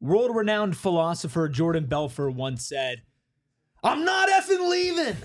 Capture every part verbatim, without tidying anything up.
World-renowned philosopher Jordan Belfort once said, "I'm not effing leaving."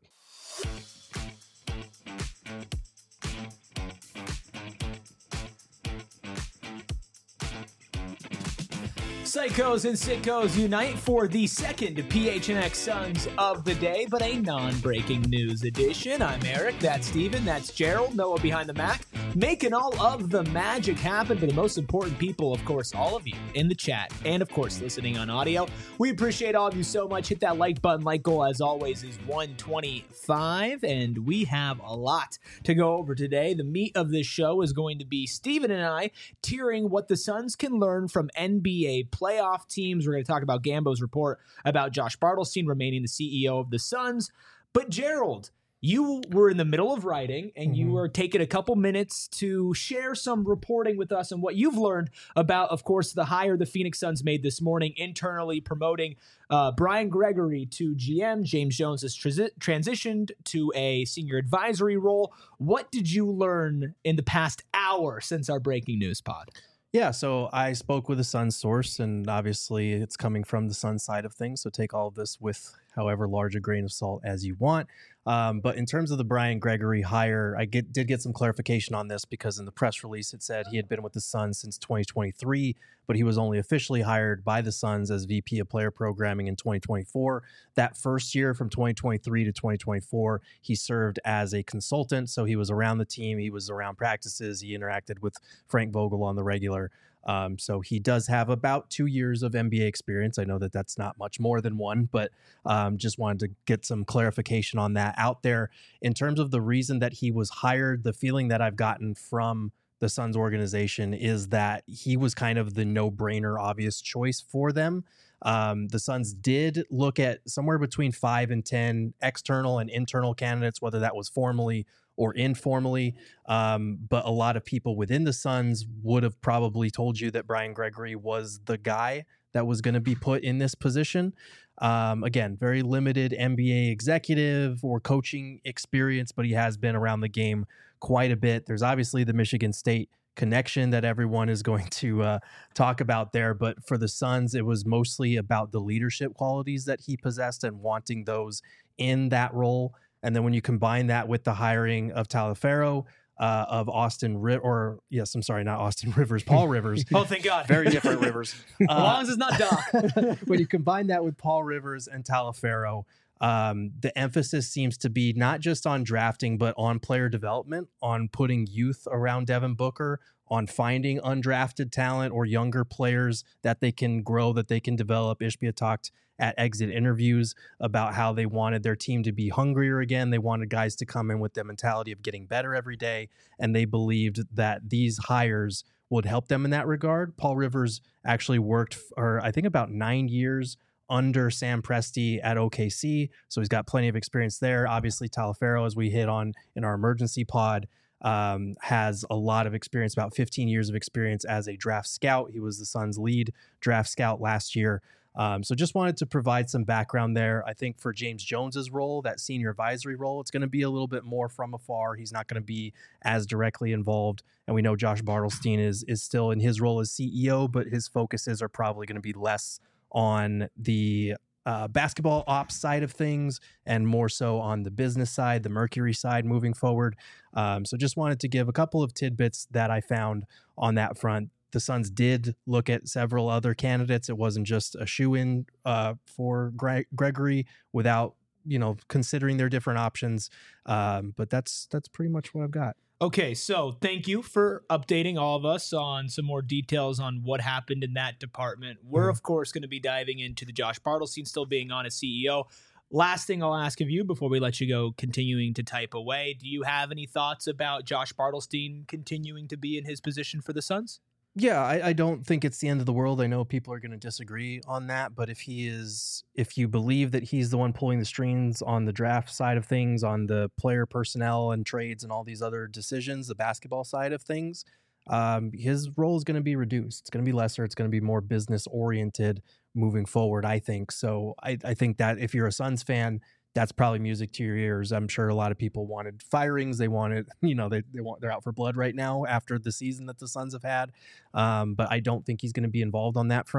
Psychos and sickos unite for the second P H N X Suns of the day, but a non-breaking news edition. I'm Eric, that's Steven, that's Gerald, Noah behind the Mac, making all of the magic happen for the most important people, of course, all of you in the chat, and of course, listening on audio. We appreciate all of you so much. Hit that like button. Like goal, as always, is one twenty-five, and we have a lot to go over today. The meat of this show is going to be Steven and I tiering what the Suns can learn from N B A playoff teams. We're going to talk about Gambo's report about Josh Bartelstein remaining the C E O of the Suns. But Gerald, you were in the middle of writing, and mm-hmm. you were taking a couple minutes to share some reporting with us and what you've learned about, of course, the hire the Phoenix Suns made this morning, internally promoting uh, Brian Gregory to G M. James Jones has transi- transitioned to a senior advisory role. What did you learn in the past hour since our breaking news pod? Yeah, so I spoke with a Sun source, and obviously it's coming from the Sun side of things, so take all of this with however large a grain of salt as you want. Um, but in terms of the Brian Gregory hire, I get, did get some clarification on this because in the press release it said he had been with the Suns since twenty twenty-three, but he was only officially hired by the Suns as V P of player programming in twenty twenty-four. That first year from twenty twenty-three to twenty twenty-four, he served as a consultant, so he was around the team, he was around practices, he interacted with Frank Vogel on the regular. Um, so he does have about two years of N B A experience. I know that that's not much more than one, but um, just wanted to get some clarification on that out there. In terms of the reason that he was hired, the feeling that I've gotten from the Suns organization is that he was kind of the no-brainer, obvious choice for them. Um, the Suns did look at somewhere between five and ten external and internal candidates, whether that was formally or informally. Um, but a lot of people within the Suns would have probably told you that Brian Gregory was the guy that was going to be put in this position. Um, again, very limited N B A executive or coaching experience, but he has been around the game quite a bit. There's obviously the Michigan State connection that everyone is going to uh, talk about there. But for the Suns, it was mostly about the leadership qualities that he possessed and wanting those in that role. And then when you combine that with the hiring of Taliaferro, uh, of Austin, Ri- or yes, I'm sorry, not Austin Rivers, Paul Rivers. Oh, thank God. Very different Rivers. As uh, long as it's not Doc. When you combine that with Paul Rivers and Taliaferro, um, the emphasis seems to be not just on drafting, but on player development, on putting youth around Devin Booker, on finding undrafted talent or younger players that they can grow, that they can develop. Ishbia talked at exit interviews about how they wanted their team to be hungrier again. They wanted guys to come in with the mentality of getting better every day, and they believed that these hires would help them in that regard. Paul Rivers actually worked for, I think, about nine years under Sam Presti at O K C, so he's got plenty of experience there. Obviously, Taliaferro, as we hit on in our emergency pod, um, has a lot of experience, about fifteen years of experience as a draft scout. He was the Suns' lead draft scout last year. Um, so just wanted to provide some background there. I think for James Jones's role, that senior advisory role, it's going to be a little bit more from afar. He's not going to be as directly involved. And we know Josh Bartelstein is is still in his role as C E O, but his focuses are probably going to be less on the uh, basketball ops side of things and more so on the business side, the Mercury side moving forward. Um, so just wanted to give a couple of tidbits that I found on that front. The Suns did look at several other candidates. It wasn't just a shoe-in uh, for Gre- Gregory without, you know, considering their different options. Um, but that's that's pretty much what I've got. Okay, so thank you for updating all of us on some more details on what happened in that department. We're, mm-hmm. of course, going to be diving into the Josh Bartelstein still being on as C E O. Last thing I'll ask of you before we let you go, continuing to type away, do you have any thoughts about Josh Bartelstein continuing to be in his position for the Suns? Yeah, I, I don't think it's the end of the world. I know people are going to disagree on that, but if he is, if you believe that he's the one pulling the strings on the draft side of things, on the player personnel and trades and all these other decisions, the basketball side of things, um, his role is going to be reduced. It's going to be lesser. It's going to be more business oriented moving forward, I think. So I, I think that if you're a Suns fan, that's probably music to your ears. I'm sure a lot of people wanted firings. They wanted, you know, they, they want, they're out for blood right now after the season that the Suns have had. Um, but I don't think he's going to be involved on that front.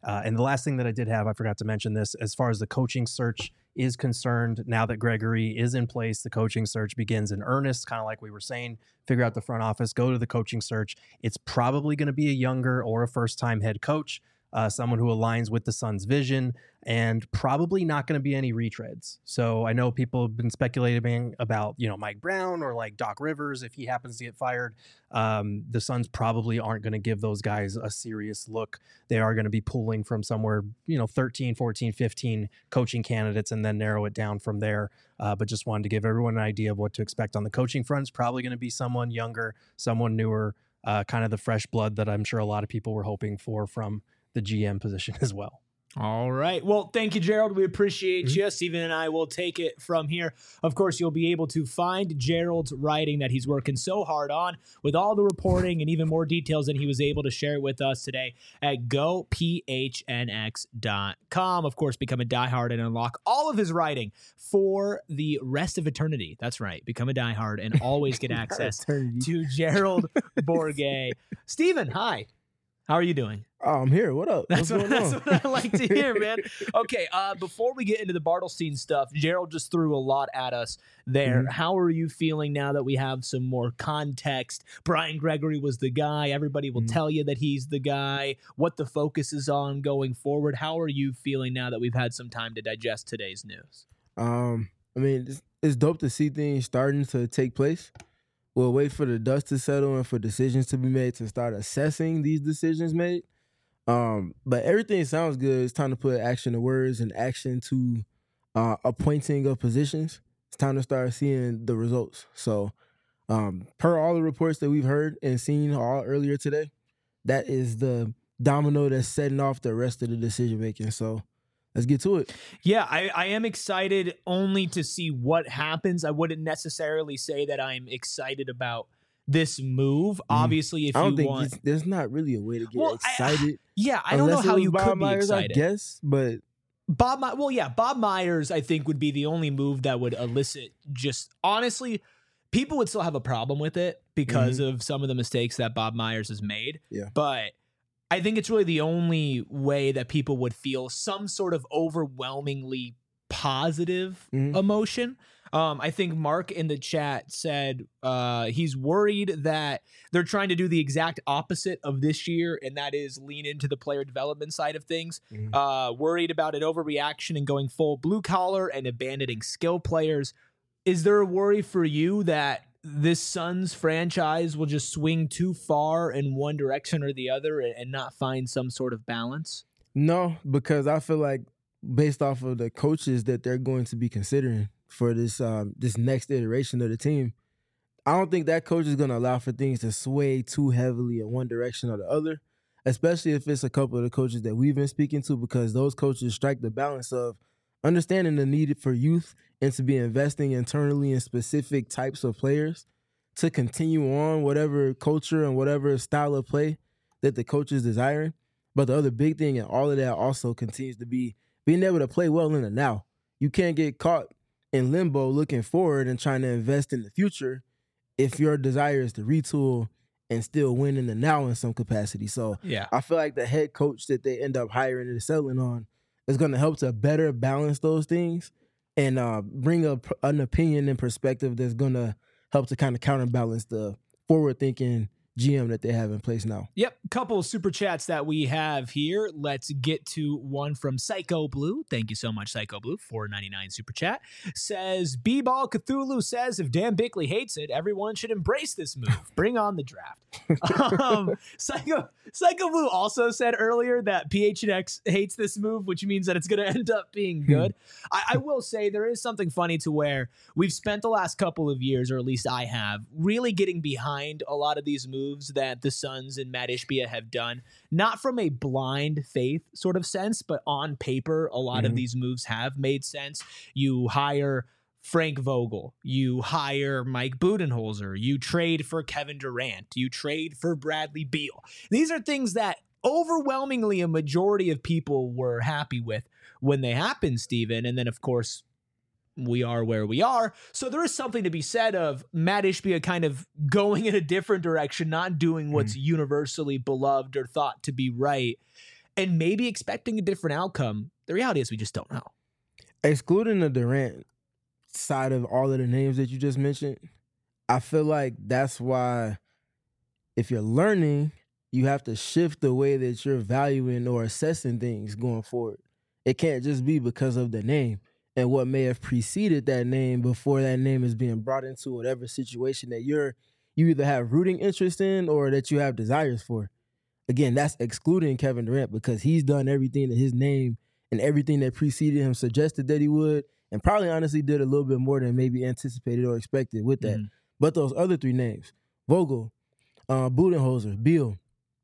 Uh, and the last thing that I did have, I forgot to mention this, as far as the coaching search is concerned, now that Gregory is in place, the coaching search begins in earnest, kind of like we were saying, figure out the front office, go to the coaching search. It's probably going to be a younger or a first-time head coach, uh, someone who aligns with the Suns' vision, and probably not going to be any retreads. So I know people have been speculating about, you know, Mike Brown or like Doc Rivers if he happens to get fired. Um, the Suns probably aren't going to give those guys a serious look. They are going to be pulling from somewhere, you know, thirteen, fourteen, fifteen coaching candidates and then narrow it down from there. Uh, but just wanted to give everyone an idea of what to expect on the coaching front. It's probably going to be someone younger, someone newer, uh, kind of the fresh blood that I'm sure a lot of people were hoping for from the G M position as well. All right. Well, thank you, Gerald. We appreciate Mm-hmm. you. Steven and I will take it from here. Of course, you'll be able to find Gerald's writing that he's working so hard on with all the reporting and even more details than he was able to share with us today at go p h n x dot com. Of course, become a diehard and unlock all of his writing for the rest of eternity. That's right. Become a diehard and always get access to Gerald Bourguet. Steven, hi. How are you doing? Oh, I'm here. What up? That's, What's what, going that's on? what I like to hear, man. Okay, uh, before we get into the Bartelstein stuff, Gerald just threw a lot at us there. Mm-hmm. How are you feeling now that we have some more context? Brian Gregory was the guy. Everybody will Mhm. tell you that he's the guy, what the focus is on going forward. How are you feeling now that we've had some time to digest today's news? Um, I mean, it's, it's dope to see things starting to take place. We'll wait for the dust to settle and for decisions to be made to start assessing these decisions made. Um, but everything sounds good. It's time to put action to words and action to uh, appointing of positions. It's time to start seeing the results. So, um, per all the reports that we've heard and seen all earlier today, that is the domino that's setting off the rest of the decision making. So, let's get to it. Yeah, I, I am excited only to see what happens. I wouldn't necessarily say that I'm excited about this move. Mm. Obviously, if I don't you think want, there's not really a way to get well, excited. I, yeah, I don't know how you Bob could Myers, be excited. I guess, but Bob, My- well, yeah, Bob Myers, I think would be the only move that would elicit. Just honestly, people would still have a problem with it because mm-hmm. of some of the mistakes that Bob Myers has made. Yeah, but I think it's really the only way that people would feel some sort of overwhelmingly positive mm-hmm. emotion. Um, I think Mark in the chat said uh, he's worried that they're trying to do the exact opposite of this year, and that is lean into the player development side of things. Mm-hmm. Uh, worried about an overreaction and going full blue collar and abandoning skill players. Is there a worry for you that this Suns franchise will just swing too far in one direction or the other and not find some sort of balance? No, because I feel like based off of the coaches that they're going to be considering for this um, this next iteration of the team, I don't think that coach is going to allow for things to sway too heavily in one direction or the other, especially if it's a couple of the coaches that we've been speaking to, because those coaches strike the balance of understanding the need for youth and to be investing internally in specific types of players to continue on whatever culture and whatever style of play that the coach is desiring. But the other big thing in all of that also continues to be being able to play well in the now. You can't get caught in limbo looking forward and trying to invest in the future if your desire is to retool and still win in the now in some capacity. So yeah, I feel like the head coach that they end up hiring and settling on is going to help to better balance those things and uh, bring up an opinion and perspective that's going to help to kind of counterbalance the forward-thinking G M that they have in place now. Yep, couple of super chats that we have here. Let's get to one from Psycho Blue. Thank you so much, Psycho Blue. four ninety-nine super chat. Says, B-Ball Cthulhu says, if Dan Bickley hates it, everyone should embrace this move. Bring on the draft. um, Psycho, Psycho Blue also said earlier that P H N X hates this move, which means that it's going to end up being good. I, I will say there is something funny to where we've spent the last couple of years, or at least I have, really getting behind a lot of these moves that the Suns and Matt Ishbia have done, not from a blind faith sort of sense, but on paper, a lot mm-hmm. of these moves have made sense. You hire Frank Vogel, you hire Mike Budenholzer, you trade for Kevin Durant, you trade for Bradley Beal. These are things that overwhelmingly a majority of people were happy with when they happened, Steven. And then, of course, we are where we are. So there is something to be said of Matt Ishbia kind of going in a different direction, not doing what's mm. universally beloved or thought to be right. and maybe expecting a different outcome. The reality is we just don't know. Excluding the Durant side of all of the names that you just mentioned, I feel like that's why if you're learning, you have to shift the way that you're valuing or assessing things going forward. It can't just be because of the name and what may have preceded that name before that name is being brought into whatever situation that you're you either have rooting interest in or that you have desires for. Again, that's excluding Kevin Durant because he's done everything that his name and everything that preceded him suggested that he would, and probably honestly did a little bit more than maybe anticipated or expected with that. Mm-hmm. But those other three names, Vogel, uh, Budenholzer, Beal,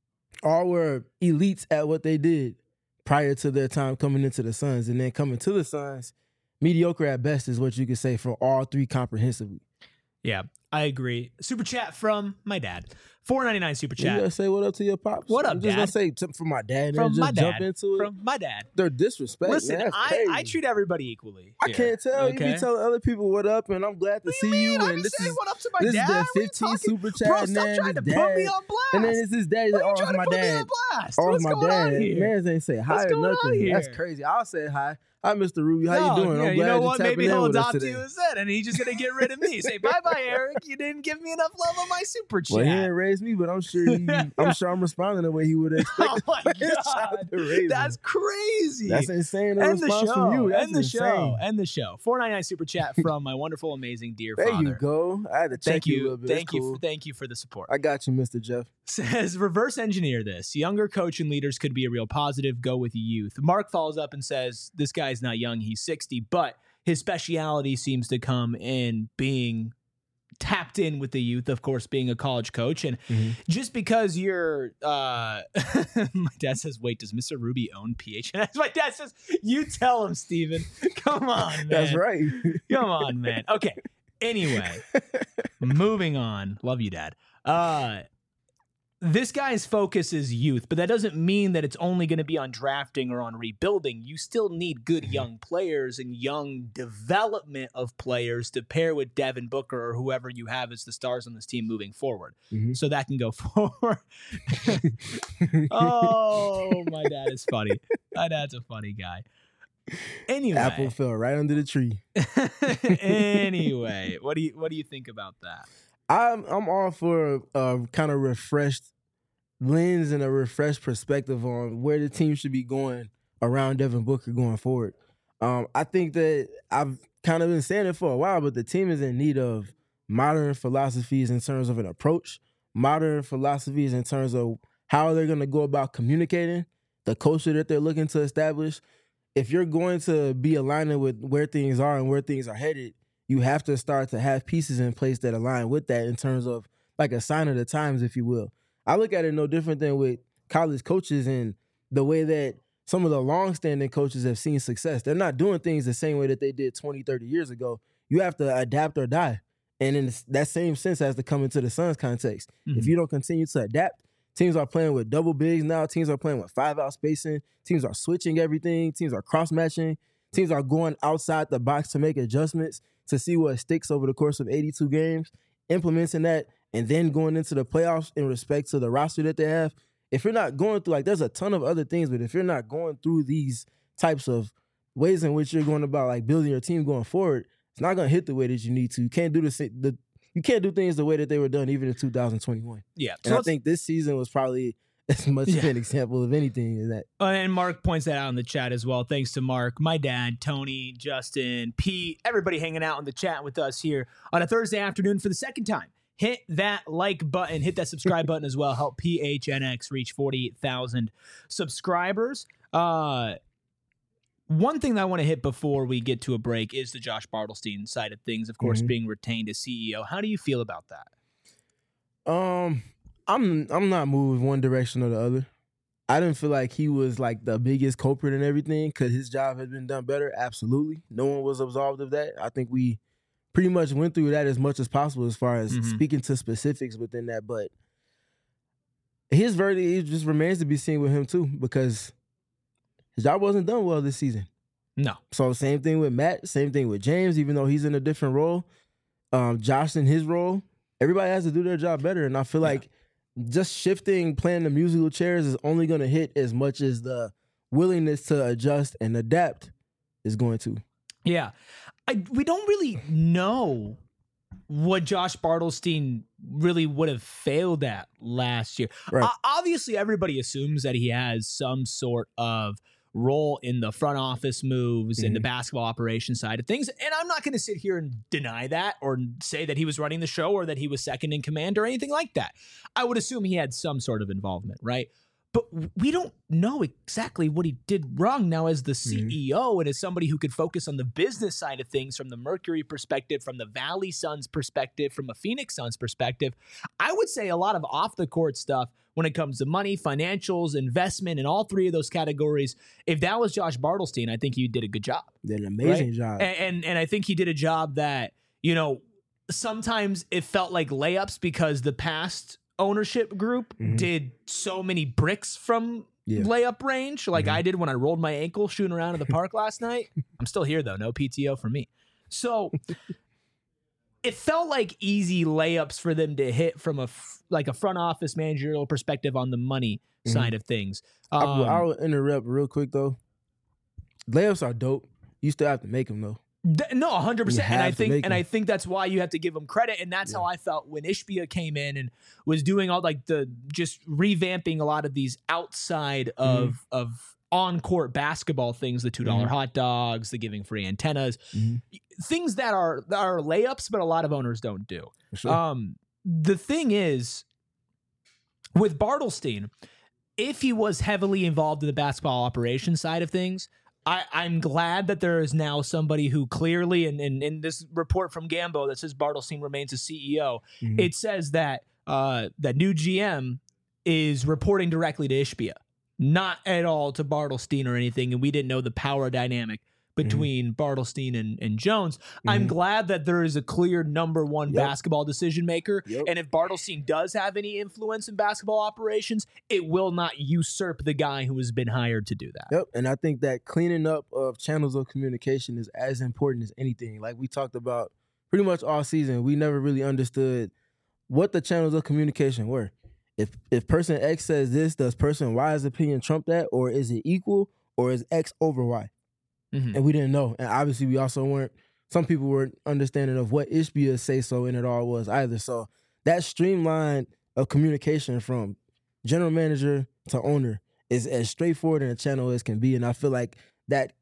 all were elites at what they did prior to their time coming into the Suns. And then coming to the Suns, mediocre at best is what you could say for all three comprehensively. Yeah, I agree. Super chat from my dad. four ninety-nine super chat. You gotta say what up to your pops. What up, I'm just Dad? gonna say something from my dad and From just my jump dad. into it. From my dad. They're disrespect. Listen, man. That's I, crazy. I treat everybody equally. I here. can't tell. Okay? You be telling other people what up, and I'm glad to What do see you. you. Mean? And I'm this saying is what up to my this dad. is the What are you fifteen talking- super chat. Bro, and stop then trying to his put dad. me on blast. And then it's his dad. Why are you Oh, it's trying to my put me dad. on blast? Oh, What's it's my going dad. on here? Man ain't say hi What's or going on nothing. here? That's crazy. I'll say hi. Hi, Mister Ruby. How No, you doing? Yeah, I'm you glad know you're what? tapping Maybe in he'll with us adopt today. you instead, and he's just gonna get rid of me. Say bye, bye, Eric. You didn't give me enough love on my super chat. Well, he didn't raise me, but I'm sure he, I'm sure I'm responding the way he would expect. Oh my god, that's crazy. That's insane. A End the response show. from you. That's End the insane. show. End the show. four ninety-nine super chat from my wonderful, amazing dear There father. you go. I had to check Thank you, a you. little bit. Thank It's you. cool. For, thank you for the support. I got you, Mister Jeff. Says reverse engineer this. Younger coach and leaders could be a real positive. Go with youth. Mark follows up and says this guy's not young. He's sixty, but his speciality seems to come in being tapped in with the youth, of course, being a college coach. And mm-hmm. just because you're, uh, my dad says, wait, does Mister Ruby own P H N X? My dad says, you tell him, Steven. Come on, man. That's right. Come on, man. Okay. Anyway, moving on. Love you, Dad. Uh, This guy's focus is youth, but that doesn't mean that it's only going to be on drafting or on rebuilding. You still need good young players and young development of players to pair with Devin Booker or whoever you have as the stars on this team moving forward. Mm-hmm. So that can go forward. Oh, my dad is funny. My dad's a funny guy. Anyway, Apple fell right under the tree. Anyway, what do you what do you think about that? I'm I'm all for a, a kind of refreshed lens and a refreshed perspective on where the team should be going around Devin Booker going forward. Um, I think that I've kind of been saying it for a while, but the team is in need of modern philosophies in terms of an approach, modern philosophies in terms of how they're going to go about communicating, the culture that they're looking to establish. If you're going to be aligning with where things are and where things are headed, you have to start to have pieces in place that align with that in terms of like a sign of the times, if you will. I look at it no different than with college coaches and the way that some of the longstanding coaches have seen success. They're not doing things the same way that they did twenty, thirty years ago. You have to adapt or die. And in that same sense has to come into the Suns context. Mm-hmm. If you don't continue to adapt, teams are playing with double bigs now. Teams are playing with five-out spacing. Teams are switching everything. Teams are cross-matching. Teams are going outside the box to make adjustments to see what sticks over the course of eighty-two games, implementing that, and then going into the playoffs in respect to the roster that they have. If you're not going through, like, there's a ton of other things, but if you're not going through these types of ways in which you're going about, like, building your team going forward, it's not going to hit the way that you need to. You can't do the, the you can't do things the way that they were done even in two thousand twenty-one. Yeah. And so I think this season was probably as much yeah. an example of anything as that. Uh, and Mark points that out in the chat as well. Thanks to Mark, my dad, Tony, Justin, Pete, everybody hanging out in the chat with us here on a Thursday afternoon for the second time. Hit that like button, hit that subscribe button as well. Help P H N X reach forty-eight thousand subscribers. Uh, one thing that I want to hit before we get to a break is the Josh Bartelstein side of things, of course, mm-hmm. being retained as C E O. How do you feel about that? Um, I'm I'm not moving one direction or the other. I didn't feel like he was like the biggest culprit in everything. Could his job have been done better? Absolutely. No one was absolved of that. I think we pretty much went through that as much as possible as far as mm-hmm. speaking to specifics within that. But his verdict it just remains to be seen with him too, because his job wasn't done well this season. No. So same thing with Matt, same thing with James, even though he's in a different role. Um, Josh in his role, everybody has to do their job better. And I feel yeah. like just shifting, playing the musical chairs is only going to hit as much as the willingness to adjust and adapt is going to. Yeah. I, we don't really know what Josh Bartelstein really would have failed at last year. Right. Uh, obviously, everybody assumes that he has some sort of role in the front office moves mm-hmm. and the basketball operation side of things. And I'm not going to sit here and deny that or say that he was running the show or that he was second in command or anything like that. I would assume he had some sort of involvement, right? But we don't know exactly what he did wrong now as the C E O mm-hmm. and as somebody who could focus on the business side of things from the Mercury perspective, from the Valley Suns perspective, from a Phoenix Suns perspective. I would say a lot of off the court stuff when it comes to money, financials, investment, and all three of those categories. If that was Josh Bartelstein, I think he did a good job. Did an amazing right? job. And, and and I think he did a job that, you know, sometimes it felt like layups because the past ownership group mm-hmm. did so many bricks from yeah. layup range like mm-hmm. I did when I rolled my ankle shooting around in the park last night. I'm still here though. No P T O for me. So it felt like easy layups for them to hit from a f- like a front office managerial perspective on the money mm-hmm. side of things. Um, I, I'll interrupt real quick though. Layups are dope. You still have to make them though. Th- no, one hundred percent. And I think and I think that's why you have to give him credit. And that's yeah. how I felt when Ishbia came in and was doing all like the just revamping a lot of these outside of mm-hmm. of on-court basketball things, the two dollar mm-hmm. hot dogs, the giving free antennas, mm-hmm. things that are that are layups, but a lot of owners don't do. Sure. Um, the thing is, with Bartelstein, if he was heavily involved in the basketball operations side of things, I, I'm glad that there is now somebody who clearly, and in, in, in this report from Gambo that says Bartelstein remains a C E O, mm-hmm. it says that uh, that new G M is reporting directly to Ishbia, not at all to Bartelstein or anything, and we didn't know the power dynamic between mm-hmm. Bartelstein and, and Jones. Mm-hmm. I'm glad that there is a clear number one yep. basketball decision maker. Yep. And if Bartelstein does have any influence in basketball operations, it will not usurp the guy who has been hired to do that. Yep. And I think that cleaning up of channels of communication is as important as anything. Like we talked about pretty much all season, we never really understood what the channels of communication were. If if person X says this, does person Y's opinion trump that? Or is it equal? Or is X over Y? Mm-hmm. And we didn't know. And obviously we also weren't, some people weren't understanding of what Ishbia's say-so in it all was either. So that streamline of communication from general manager to owner is as straightforward in a channel as can be. And I feel like that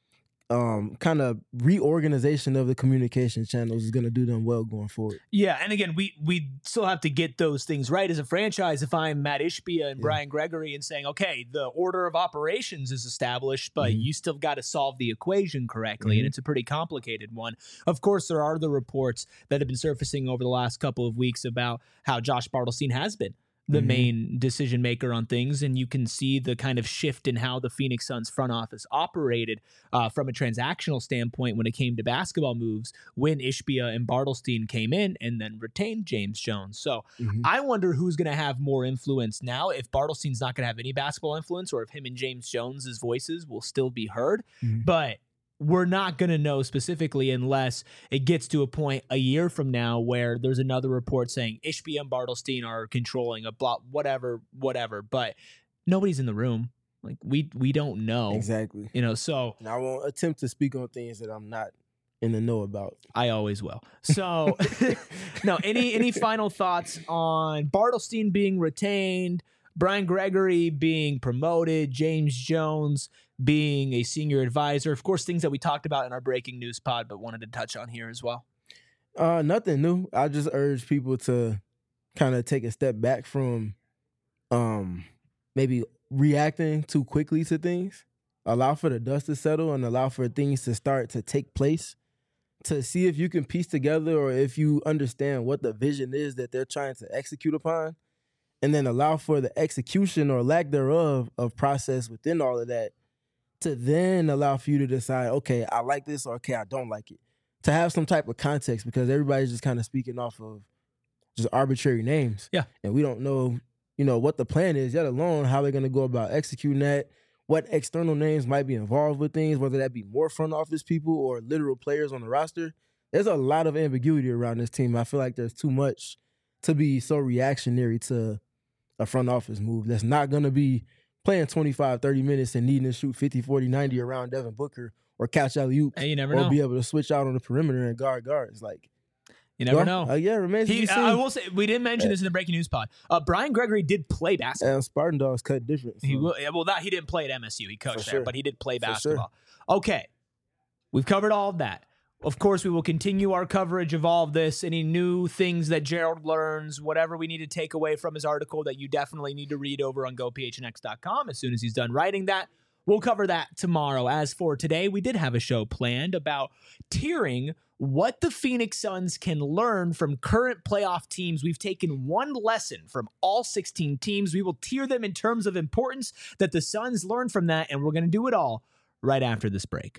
um, kind of reorganization of the communication channels is going to do them well going forward. Yeah, and again, we we still have to get those things right as a franchise. If I'm Matt Ishbia and yeah. Brian Gregory and saying, okay, the order of operations is established, but mm-hmm. you still got to solve the equation correctly, mm-hmm. and it's a pretty complicated one. Of course, there are the reports that have been surfacing over the last couple of weeks about how Josh Bartelstein has been the mm-hmm. main decision maker on things, and you can see the kind of shift in how the Phoenix Suns front office operated uh, from a transactional standpoint when it came to basketball moves when Ishbia and Bartelstein came in and then retained James Jones. So mm-hmm. I wonder who's going to have more influence now, if Bartelstein's not going to have any basketball influence or if him and James Jones's voices will still be heard. Mm-hmm. But we're not going to know specifically unless it gets to a point a year from now where there's another report saying Ishbia and Bartelstein are controlling a block, whatever, whatever. But nobody's in the room. Like we we don't know. Exactly. You know, so. And I won't attempt to speak on things that I'm not in the know about. I always will. So, no, any any final thoughts on Bartelstein being retained, Brian Gregory being promoted, James Jones being a senior advisor? Of course, things that we talked about in our breaking news pod, but wanted to touch on here as well. Uh, nothing new. I just urge people to kind of take a step back from um, maybe reacting too quickly to things. Allow for the dust to settle and allow for things to start to take place, to see if you can piece together or if you understand what the vision is that they're trying to execute upon, and then allow for the execution or lack thereof of process within all of that, to then allow for you to decide, okay, I like this, or okay, I don't like it. To have some type of context, because everybody's just kind of speaking off of just arbitrary names. Yeah. And we don't know, you know, what the plan is, yet alone how they're going to go about executing that, what external names might be involved with things, whether that be more front office people or literal players on the roster. There's a lot of ambiguity around this team. I feel like there's too much to be so reactionary to a front office move. That's not going to be playing twenty-five, thirty minutes and needing to shoot fifty, forty, ninety around Devin Booker or catch alley-oops. Hey, you never or know. be able to switch out on the perimeter and guard guards. Like, You never well, know. Uh, yeah, remains He, to be seen. I will say, we didn't mention this in the breaking news pod. Uh, Brian Gregory did play basketball. And Spartan Dogs cut different. So. He will. Yeah, well, that he didn't play at M S U. He coached For there, sure. but he did play For basketball. Okay, we've covered all of that. Of course, we will continue our coverage of all of this. Any new things that Gerald learns, whatever we need to take away from his article that you definitely need to read over on go p h n x dot com as soon as he's done writing that. We'll cover that tomorrow. As for today, we did have a show planned about tiering what the Phoenix Suns can learn from current playoff teams. We've taken one lesson from all sixteen teams. We will tier them in terms of importance that the Suns learn from that, and we're going to do it all right after this break.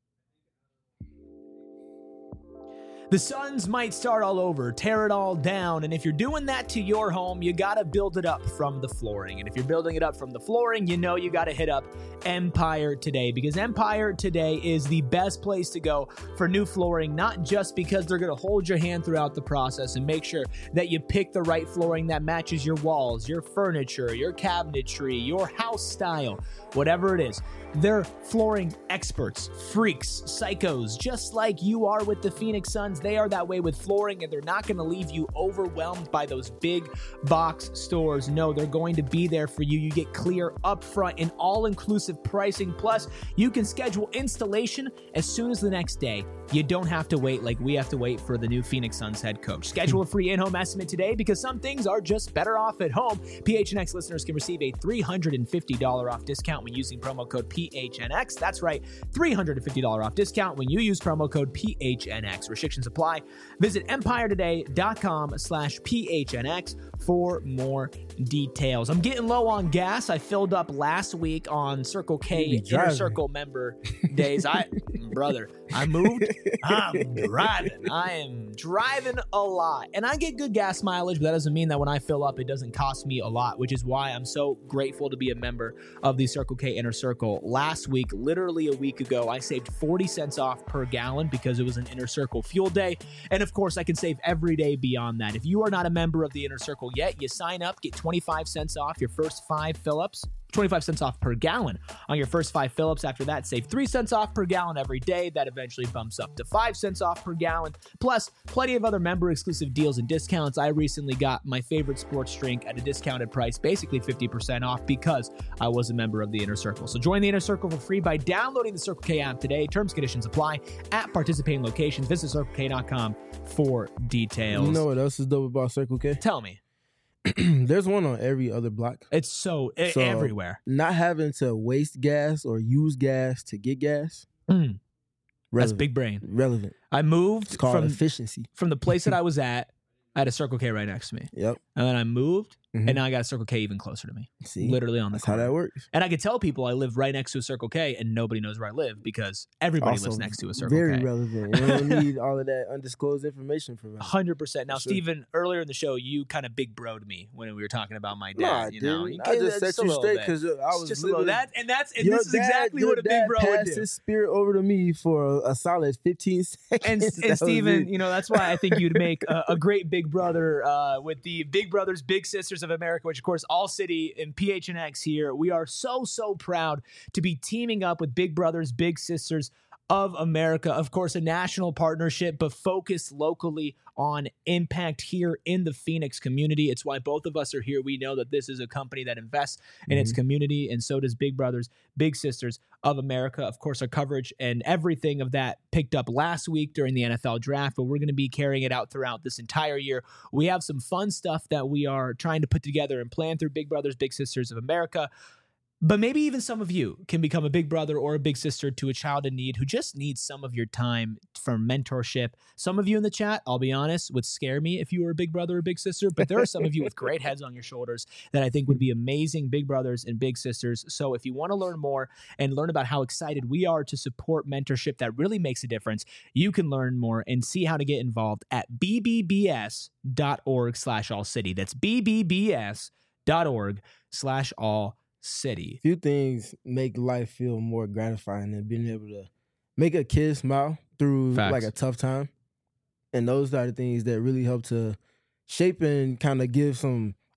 The Suns might start all over, tear it all down, and if you're doing that to your home, you gotta build it up from the flooring. And if you're building it up from the flooring, you know you gotta hit up Empire Today, because Empire Today is the best place to go for new flooring, not just because they're gonna hold your hand throughout the process and make sure that you pick the right flooring that matches your walls, your furniture, your cabinetry, your house style, whatever it is. They're flooring experts, freaks, psychos, just like you are with the Phoenix Suns. They are that way with flooring, and they're not going to leave you overwhelmed by those big box stores. No, they're going to be there for you. You get clear upfront and all-inclusive pricing. Plus, you can schedule installation as soon as the next day. You don't have to wait like we have to wait for the new Phoenix Suns head coach. Schedule a free in-home estimate today because some things are just better off at home. P H N X listeners can receive a three hundred fifty dollars off discount when using promo code P H N X. That's right, three hundred fifty dollars off discount when you use promo code P H N X. Restrictions apply. Visit empiretoday.com slash PHNX for more details. I'm getting low on gas. I filled up last week on Circle K Inner Circle member days. I, brother, I moved. I'm driving. I am driving a lot. And I get good gas mileage, but that doesn't mean that when I fill up, it doesn't cost me a lot, which is why I'm so grateful to be a member of the Circle K Inner Circle. Last week, literally a week ago, I saved forty cents off per gallon because it was an Inner Circle fuel day. And of course, I can save every day beyond that. If you are not a member of the Inner Circle yet, you sign up, get twenty-five cents off your first five fill-ups. twenty-five cents off per gallon on your first five fill-ups. After that, save three cents off per gallon every day. That eventually bumps up to five cents off per gallon. Plus, plenty of other member-exclusive deals and discounts. I recently got my favorite sports drink at a discounted price, basically fifty percent off because I was a member of the Inner Circle. So join the Inner Circle for free by downloading the Circle K app today. Terms and conditions apply at participating locations. Visit circle k dot com for details. You know what else is dope about Circle K? Tell me. There's one on every other block. It's so, so everywhere. Not having to waste gas or use gas to get gas. Mm. That's big brain. Relevant. I moved It's called from, efficiency. from the place that I was at. I had a Circle K right next to me. Yep. And then I moved, Mhm. and now I got a Circle K even closer to me. See, literally on the that's corner. how that works. And I could tell people I live right next to a Circle K, and nobody knows where I live because everybody Also lives next to a Circle very K. relevant. You don't need all of that undisclosed information for one that. hundred percent. Now, Sure. Steven, earlier in the show, you kind of big broed me when we were talking about my dad. No, I you know, didn't. You I gave just that set a you little straight bit. because I It's was just a little living- that, and that's and Your this is dad- exactly your what a big dad bro would passed do. his spirit over to me for a, a solid fifteen seconds. And, That and was Steven, it. you know, that's why I think you'd make a, a great big brother uh, with the Big Brothers, Big Sisters of America, which, of course, All City and P H N X here. We are so, so proud to be teaming up with Big Brothers, Big Sisters of America. Of course, a national partnership, but focused locally on impact here in the Phoenix community. It's why both of us are here. We know that this is a company that invests in its community, and so does Big Brothers, Big Sisters of America. Of course, our coverage and everything of that picked up last week during the N F L draft, but we're going to be carrying it out throughout this entire year. We have some fun stuff that we are trying to put together and plan through Big Brothers, Big Sisters of America. But maybe even some of you can become a big brother or a big sister to a child in need who just needs some of your time for mentorship. Some of you in the chat, I'll be honest, would scare me if you were a big brother or big sister, but there are some of you with great heads on your shoulders that I think would be amazing big brothers and big sisters. So if you want to learn more and learn about how excited we are to support mentorship that really makes a difference, you can learn more and see how to get involved at b b b s dot org slash all city. That's b b b s dot org slash all city. Few things make life feel more gratifying than being able to make a kid smile through Facts. like a tough time. And those are the things that really help to shape and kind of give some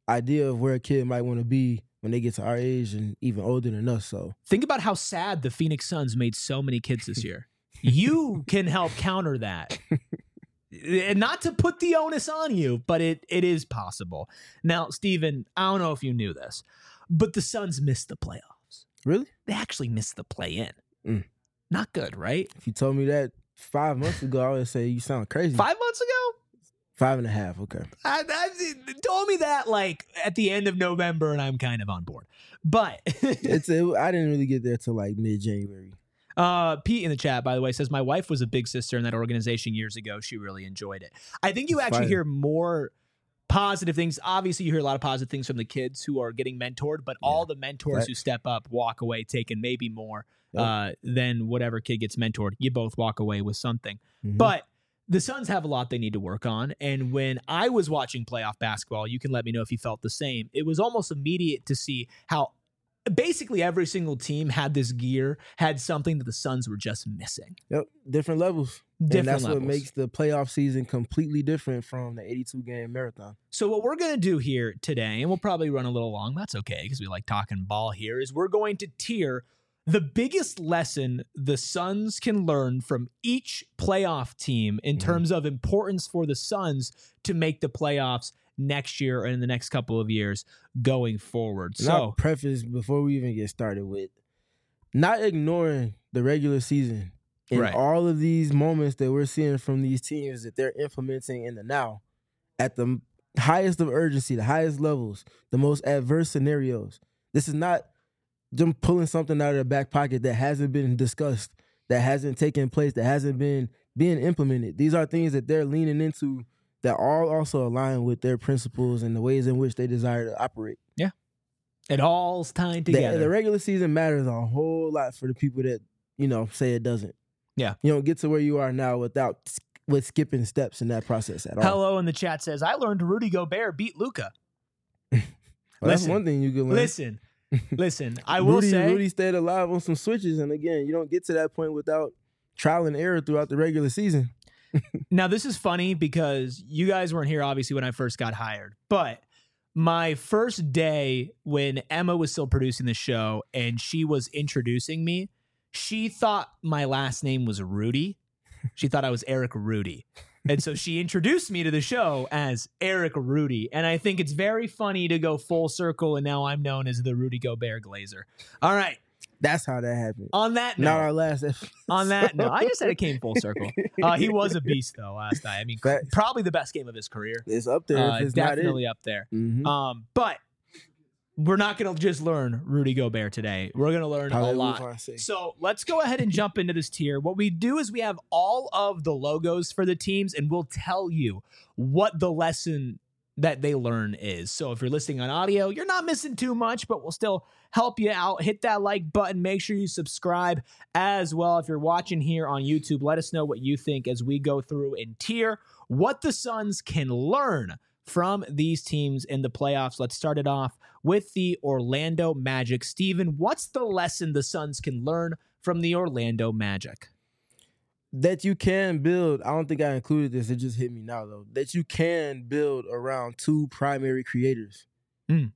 idea of where a kid might want to be when they get to our age and even older than us. So think about how sad the Phoenix Suns made so many kids this year. You can help counter that. And not to put the onus on you, but it it is possible. Now, Steven, I don't know if you knew this, but the Suns missed the playoffs. Really? They actually missed the play-in. Mm. Not good, right? If you told me that five months ago, I would say you sound crazy. Five months ago? Five and a half, okay. I, I told me that like at the end of November, and I'm kind of on board. But it's a, I didn't really get there till like mid-January. Uh, Pete in the chat, by the way, says my wife was a big sister in that organization years ago. She really enjoyed it. I think you It's actually fire. hear more positive things. Obviously, you hear a lot of positive things from the kids who are getting mentored, but Yeah. all the mentors Facts. who step up walk away taking maybe more Yep. uh, than whatever kid gets mentored. You both walk away with something. Mhm. But the Suns have a lot they need to work on. And when I was watching playoff basketball, you can let me know if you felt the same. It was almost immediate to see how basically every single team had this gear, had something that the Suns were just missing. Yep, different levels. Different and that's levels. what makes the playoff season completely different from the eighty-two game marathon. So what we're going to do here today, and we'll probably run a little long, that's okay because we like talking ball here, is we're going to tier the biggest lesson the Suns can learn from each playoff team in Mhm. terms of importance for the Suns to make the playoffs next year and in the next couple of years going forward. And So I'll preface before we even get started with not ignoring the regular season and Right. all of these moments that we're seeing from these teams that they're implementing in the now at the highest of urgency, the highest levels, the most adverse scenarios. This is not them pulling something out of their back pocket that hasn't been discussed, that hasn't taken place, that hasn't been being implemented. These are things that they're leaning into that all also align with their principles and the ways in which they desire to operate. it all's tied The, together. the regular season matters a whole lot for the people that, you know, say it doesn't. Yeah. You don't get to where you are now without with skipping steps in that process at all. Hello in the chat says, I learned Rudy Gobert beat Luka. Well, that's listen, one thing you can learn. Listen, listen, I will Rudy, say, Rudy stayed alive on some switches, and again, you don't get to that point without trial and error throughout the regular season. now this is funny because you guys weren't here obviously when I first got hired, but my first day when Emma was still producing the show and she was introducing me, she thought my last name was Rudy. She thought I was Eric Rudy. And so she introduced me to the show as Eric Rudy. And I think it's very funny to go full circle, and now I'm known as the Rudy Gobert Glazer. All right. That's how that happened. On that Not note, our last episode. on that note, I just said it came full circle. Uh, he was a beast, though, last night. I mean, Facts. probably the best game of his career. It's up there Uh, if it's definitely up there. not it. Mhm. Um, but we're not going to just learn Rudy Gobert today. We're going to learn a Hallelujah, lot. I say. So let's go ahead and jump into this tier. What we do is we have all of the logos for the teams, and we'll tell you what the lesson that they learn is. So if you're listening on audio, you're not missing too much, but we'll still help you out. Hit that like button. Make sure you subscribe as well. If you're watching here on YouTube, let us know what you think as we go through and tier what the Suns can learn from these teams in the playoffs. Let's start it off with the Orlando Magic. Steven, what's the lesson the Suns can learn from the Orlando Magic? That you can build, I don't think I included this, it just hit me now though, that you can build around two primary creators. Mm.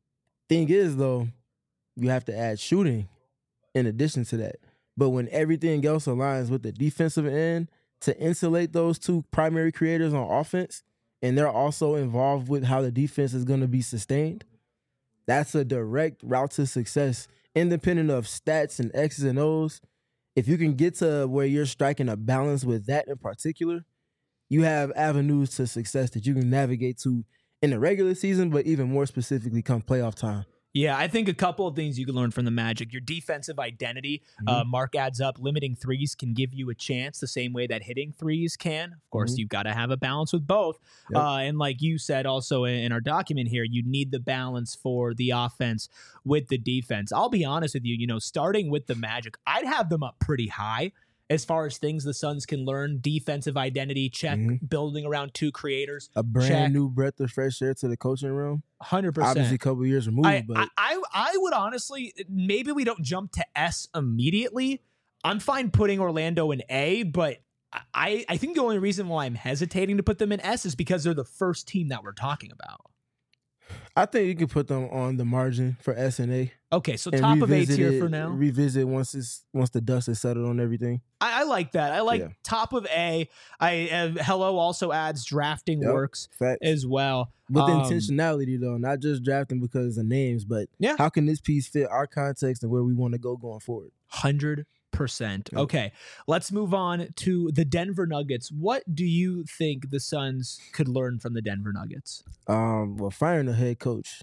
Thing is though, you have to add shooting in addition to that. But when everything else aligns with the defensive end to insulate those two primary creators on offense, and they're also involved with how the defense is going to be sustained, that's a direct route to success, independent of stats and X's and O's. If you can get to where you're striking a balance with that in particular, you have avenues to success that you can navigate to in the regular season, but even more specifically come playoff time. Yeah, I think a couple of things you can learn from the Magic. Your defensive identity, uh, Mark adds up. Limiting threes can give you a chance the same way that hitting threes can. Of course, Mhm. you've got to have a balance with both. Yep. Uh, and like you said also in, in our document here, you need the balance for the offense with the defense. I'll be honest with you, you know, starting with the Magic, I'd have them up pretty high as far as things the Suns can learn. Defensive identity, check. Mhm. Building around two creators, A brand check. new breath of fresh air to the coaching room. one hundred percent. Obviously, a couple years removed, I, but I, I I would honestly, maybe we don't jump to S immediately. I'm fine putting Orlando in A, but I, I think the only reason why I'm hesitating to put them in S is because they're the first team that we're talking about. I think you can put them on the margin for S and A. Okay, so top of A tier it, for now. Revisit once it's once the dust is settled on everything. I, I like that. I like Yeah. top of A. I uh, Hello also adds drafting Yep, works facts. as well. With Um, intentionality, though, not just drafting because of names, but Yeah. how can this piece fit our context and where we want to go going forward? one hundred percent. Yep. Okay, let's move on to the Denver Nuggets. What do you think the Suns could learn from the Denver Nuggets? Um, well, firing the head coach,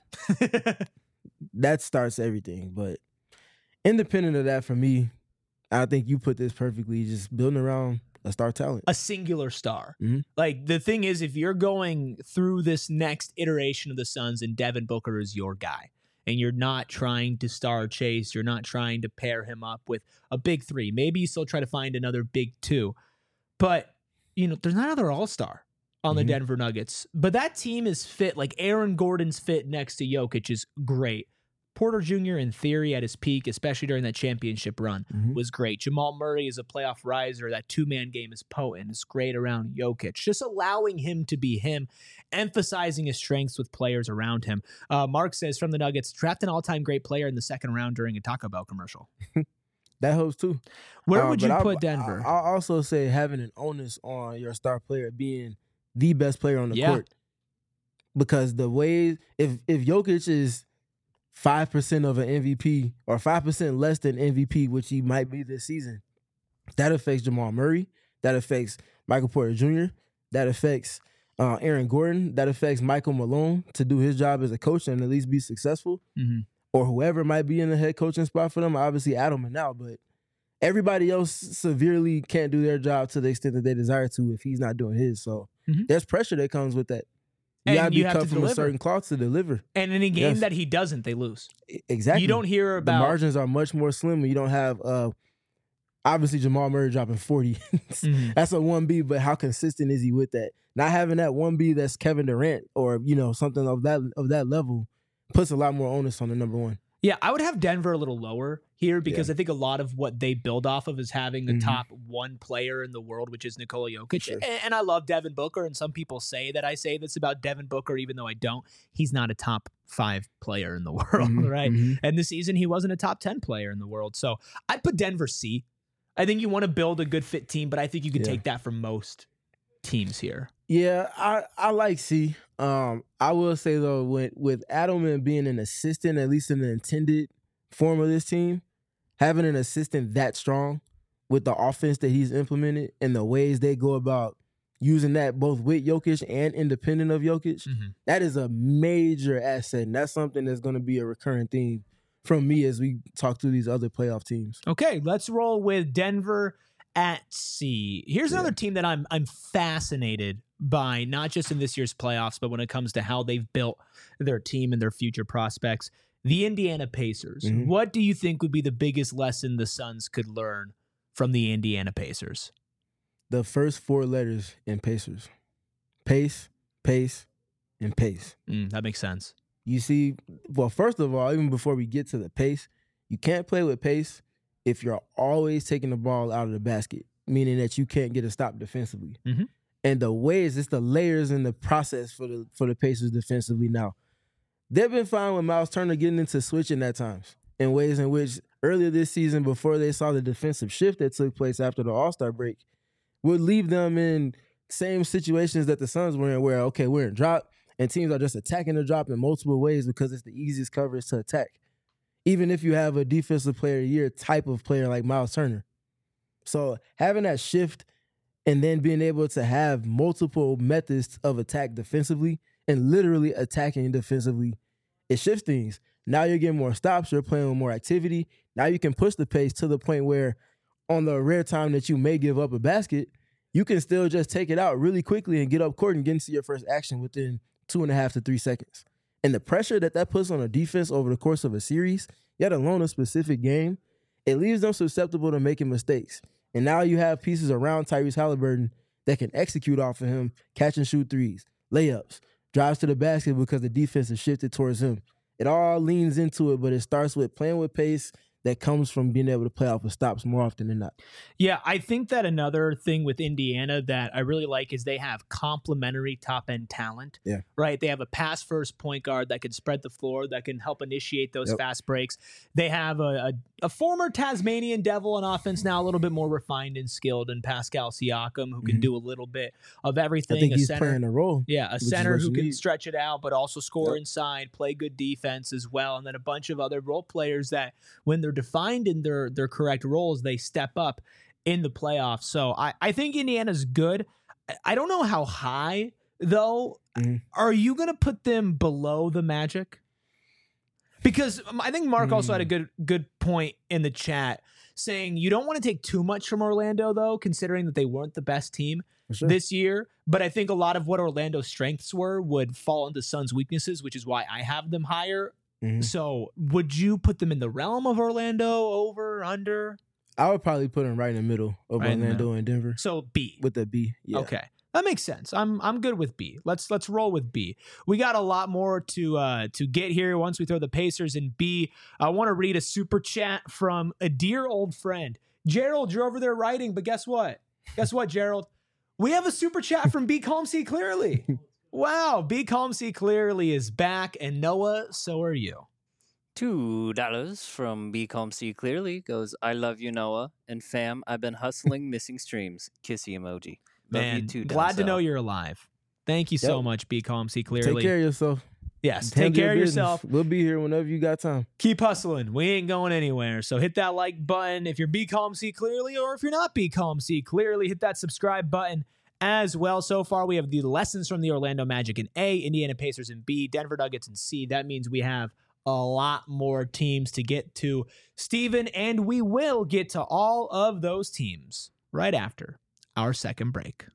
that starts everything. But independent of that, for me, I think you put this perfectly. Just building around a star talent. A singular star. Mhm. Like, the thing is, if you're going through this next iteration of the Suns and Devin Booker is your guy, and you're not trying to star chase, you're not trying to pair him up with a big three. Maybe you still try to find another big two. But, you know, there's not another all-star on the Mhm. Denver Nuggets. But that team is fit. Like, Aaron Gordon's fit next to Jokic is great. Porter Junior, in theory, at his peak, especially during that championship run, Mhm. was great. Jamal Murray is a playoff riser. That two-man game is potent. It's great around Jokic. Just allowing him to be him, emphasizing his strengths with players around him. Uh, Mark says, from the Nuggets, draft an all-time great player in the second round during a Taco Bell commercial. That helps too. Where Uh, would but you I'll- put Denver? I'll also say having an onus on your star player being the best player on the Yeah. court. Because the way, if if Jokic is five percent of an M V P or five percent less than M V P, which he might be this season, that affects Jamal Murray. That affects Michael Porter Junior That affects uh, Aaron Gordon. That affects Michael Malone to do his job as a coach and at least be successful. Mhm. Or whoever might be in the head coaching spot for them. Obviously, Adelman now, but everybody else severely can't do their job to the extent that they desire to if he's not doing his. So Mhm. there's pressure that comes with that. You And gotta be you have cut to from a deliver. certain cloth to deliver. And in a game Yes. that he doesn't, they lose. E- Exactly. You don't hear the about... margins are much more slim when you don't have uh obviously Jamal Murray dropping forty. Mhm. That's a one B, but how consistent is he with that? Not having that one B that's Kevin Durant or, you know, something of that of that level puts a lot more onus on the number one. Yeah, I would have Denver a little lower here because I think a lot of what they build off of is having the Mhm. top one player in the world, which is Nikola Jokic. Sure. And, and I love Devin Booker, and some people say that I say this about Devin Booker, even though I don't. He's not a top five player in the world, Mhm, right? mhm. And this season, he wasn't a top ten player in the world. So I'd put Denver C. I think you want to build a good fit team, but I think you can Yeah. take that from most teams here. Yeah, I, I like C. Um, I will say though, with with Adelman being an assistant, at least in the intended form of this team, having an assistant that strong with the offense that he's implemented and the ways they go about using that both with Jokic and independent of Jokic, Mhm. that is a major asset, and that's something that's going to be a recurring theme from me as we talk through these other playoff teams. Okay, let's roll with Denver at C. Here's Yeah. another team that I'm I'm fascinated by, not just in this year's playoffs, but when it comes to how they've built their team and their future prospects. The Indiana Pacers. Mhm. What do you think would be the biggest lesson the Suns could learn from the Indiana Pacers? The first four letters in Pacers: pace, pace, and pace. Mm, that makes sense. You see, well, first of all, even before we get to the pace, you can't play with pace if you're always taking the ball out of the basket, meaning that you can't get a stop defensively. Mhm. And the ways, it's the layers in the process for the for the Pacers defensively now. They've been fine with Miles Turner getting into switching at times in ways in which earlier this season, before they saw the defensive shift that took place after the All-Star break, would leave them in same situations that the Suns were in where, okay, we're in drop, and teams are just attacking the drop in multiple ways because it's the easiest coverage to attack, even if you have a defensive player of the year type of player like Miles Turner. So having that shift and then being able to have multiple methods of attack defensively and literally attacking defensively, it shifts things. Now you're getting more stops, you're playing with more activity. Now you can push the pace to the point where on the rare time that you may give up a basket, you can still just take it out really quickly and get up court and get into your first action within two and a half to three seconds. And the pressure that that puts on a defense over the course of a series, yet alone a specific game, it leaves them susceptible to making mistakes. And now you have pieces around Tyrese Halliburton that can execute off of him, catch and shoot threes, layups, drives to the basket because the defense is shifted towards him. It all leans into it, but it starts with playing with pace, that comes from being able to play off of stops more often than not. Yeah, I think that another thing with Indiana that I really like is they have complementary top-end talent. Yeah. Right? They have a pass-first point guard that can spread the floor, that can help initiate those Yep. fast breaks. They have a, a, a former Tasmanian Devil on offense, now a little bit more refined and skilled, in Pascal Siakam, who can Mhm. do a little bit of everything. I think a he's center, playing a role. Yeah, a is center what who you can need. stretch it out, but also score Yep. inside, play good defense as well, and then a bunch of other role players that, when they're defined in their their correct roles, they step up in the playoffs. So I, I think Indiana's good. I- I don't know how high, though. Mhm. Are you going to put them below the Magic? Because um, I think Mark also had a Mm. good good point in the chat saying you don't want to take too much from Orlando, though, considering that they weren't the best team For sure. this year. But I think a lot of what Orlando's strengths were would fall into Suns' weaknesses, which is why I have them higher. Mhm. So would you put them in the realm of Orlando, over, under? I would probably put him right in the middle of Right in the Orlando and Denver So B. with the B. Yeah. Okay. That makes sense. I'm I'm good with B. Let's let's roll with B. We got a lot more to uh to get here once we throw the Pacers in B. I want to read a super chat from a dear old friend. Gerald, you're over there writing, but guess what? Guess what, Gerald? We have a super chat from B Calm C Clearly. Wow, B Calm C Clearly is back, and Noah, so are you. Two dollars from B Calm C Clearly goes, I love you, Noah. And fam, I've been hustling missing streams. Kissy emoji. Love you Man, too, glad to Denzel. know you're alive. Thank you so Yep. much, B Calm C Clearly. Take care of yourself. Yes, Handle take care your of business. yourself. We'll be here whenever you got time. Keep hustling. We ain't going anywhere. So hit that like button if you're B Calm C Clearly, or if you're not B Calm C Clearly, hit that subscribe button as well. So far, we have the lessons from the Orlando Magic in A, Indiana Pacers in B, Denver Nuggets in C. That means we have a lot more teams to get to, Steven, and we will get to all of those teams right after our second break.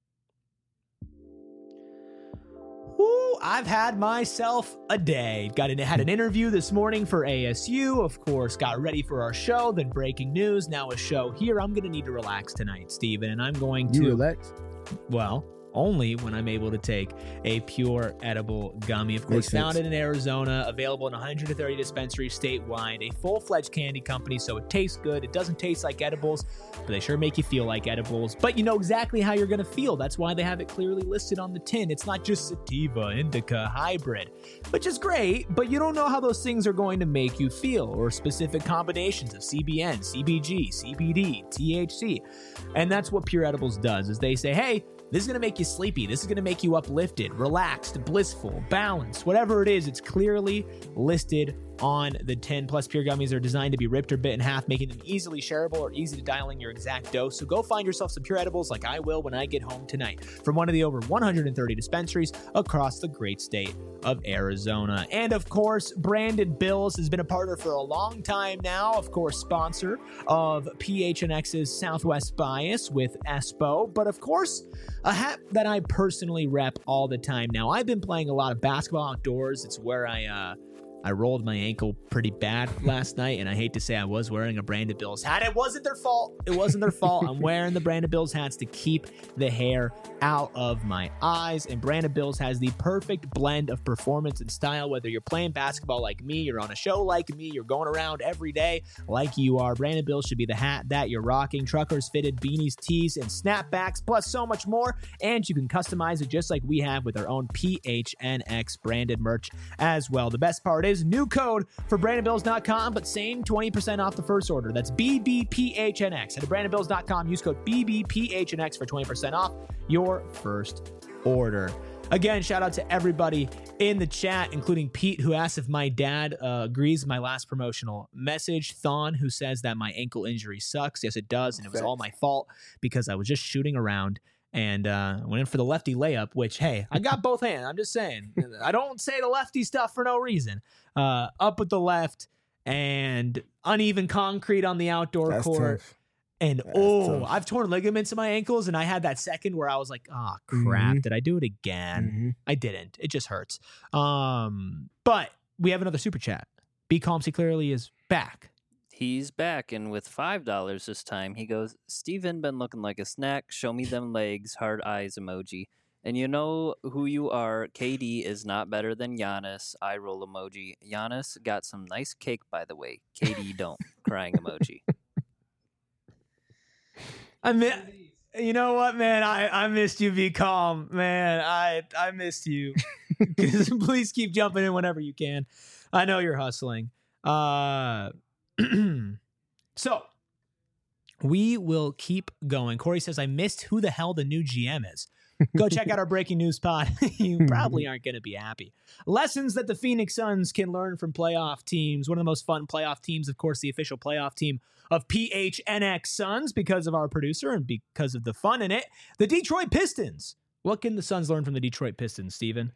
Woo, I've had myself a day. Got in, had an interview this morning for A S U, of course, got ready for our show, then breaking news, now a show here. I'm going to need to relax tonight, Steven, and I'm going You to, relax. well, only when I'm able to take a pure edible gummy. Of course, Makes sense. founded in Arizona, available in one hundred thirty dispensaries statewide, a full-fledged candy company, so it tastes good. It doesn't taste like edibles, but they sure make you feel like edibles. But you know exactly how you're going to feel. That's why they have it clearly listed on the tin. It's not just sativa, indica, hybrid, which is great, but you don't know how those things are going to make you feel, or specific combinations of C B N, C B G, C B D, T H C. And that's what Pure Edibles does, is they say, hey, this is going to make you sleepy. This is going to make you uplifted, relaxed, blissful, balanced. Whatever it is, it's clearly listed on the tin. Plus, Pure Gummies are designed to be ripped or bit in half, making them easily shareable or easy to dial in your exact dose. So go find yourself some Pure Edibles like I will when I get home tonight from one of the over one hundred thirty dispensaries across the great state of Arizona. And of course, Brandon Bills has been a partner for a long time now. Of course, sponsor of P H N X's Southwest Bias with Espo. But of course, a hat that I personally rep all the time now. I've been playing a lot of basketball outdoors. It's where I, uh, I rolled my ankle pretty bad last night, and I hate to say I was wearing a Brandon Bills hat. It wasn't their fault. It wasn't their fault. I'm wearing the Brandon Bills hats to keep the hair out of my eyes, and Brandon Bills has the perfect blend of performance and style. Whether you're playing basketball like me, you're on a show like me, you're going around every day like you are, Brandon Bills should be the hat that you're rocking. Truckers, fitted, beanies, tees, and snapbacks, plus so much more, and you can customize it just like we have with our own P H N X branded merch as well. The best part is new code for brandon bills dot com, but same twenty percent off the first order. That's B B P H N X. Head to brandon bills dot com, use code B B P H N X for twenty percent off your first order. Again, shout out to everybody in the chat, including Pete, who asked if my dad uh, agrees with my last promotional message. Thon, who says that my ankle injury sucks. Yes, it does, and it was all my fault because I was just shooting around and uh, went in for the lefty layup, which, hey, I got both hands. I'm just saying. I don't say the lefty stuff for no reason. Uh, up with the left and uneven concrete on the outdoor That's court. tough. And That's oh, tough. I've torn ligaments in my ankles, and I had that second where I was like, oh, crap. Mhm. Did I do it again? Mhm. I didn't. It just hurts. Um, but we have another super chat. B Calm C Clearly is back. He's back, and with five dollars this time, he goes, Steven been looking like a snack. Show me them legs, hard eyes emoji. And you know who you are. K D is not better than Giannis. Eye roll emoji. Giannis got some nice cake, by the way. K D don't. Crying emoji. I mean, you know what, man? I, I missed you. Be calm, man. I I missed you. Please keep jumping in whenever you can. I know you're hustling. Uh, so we will keep going. Corey says, I missed who the hell the new G M is. Go check out our breaking news pod. You probably aren't going to be happy. Lessons that the Phoenix Suns can learn from playoff teams. One of the most fun playoff teams, of course, the official playoff team of P H N X Suns because of our producer and because of the fun in it. The Detroit Pistons. What can the Suns learn from the Detroit Pistons, Steven?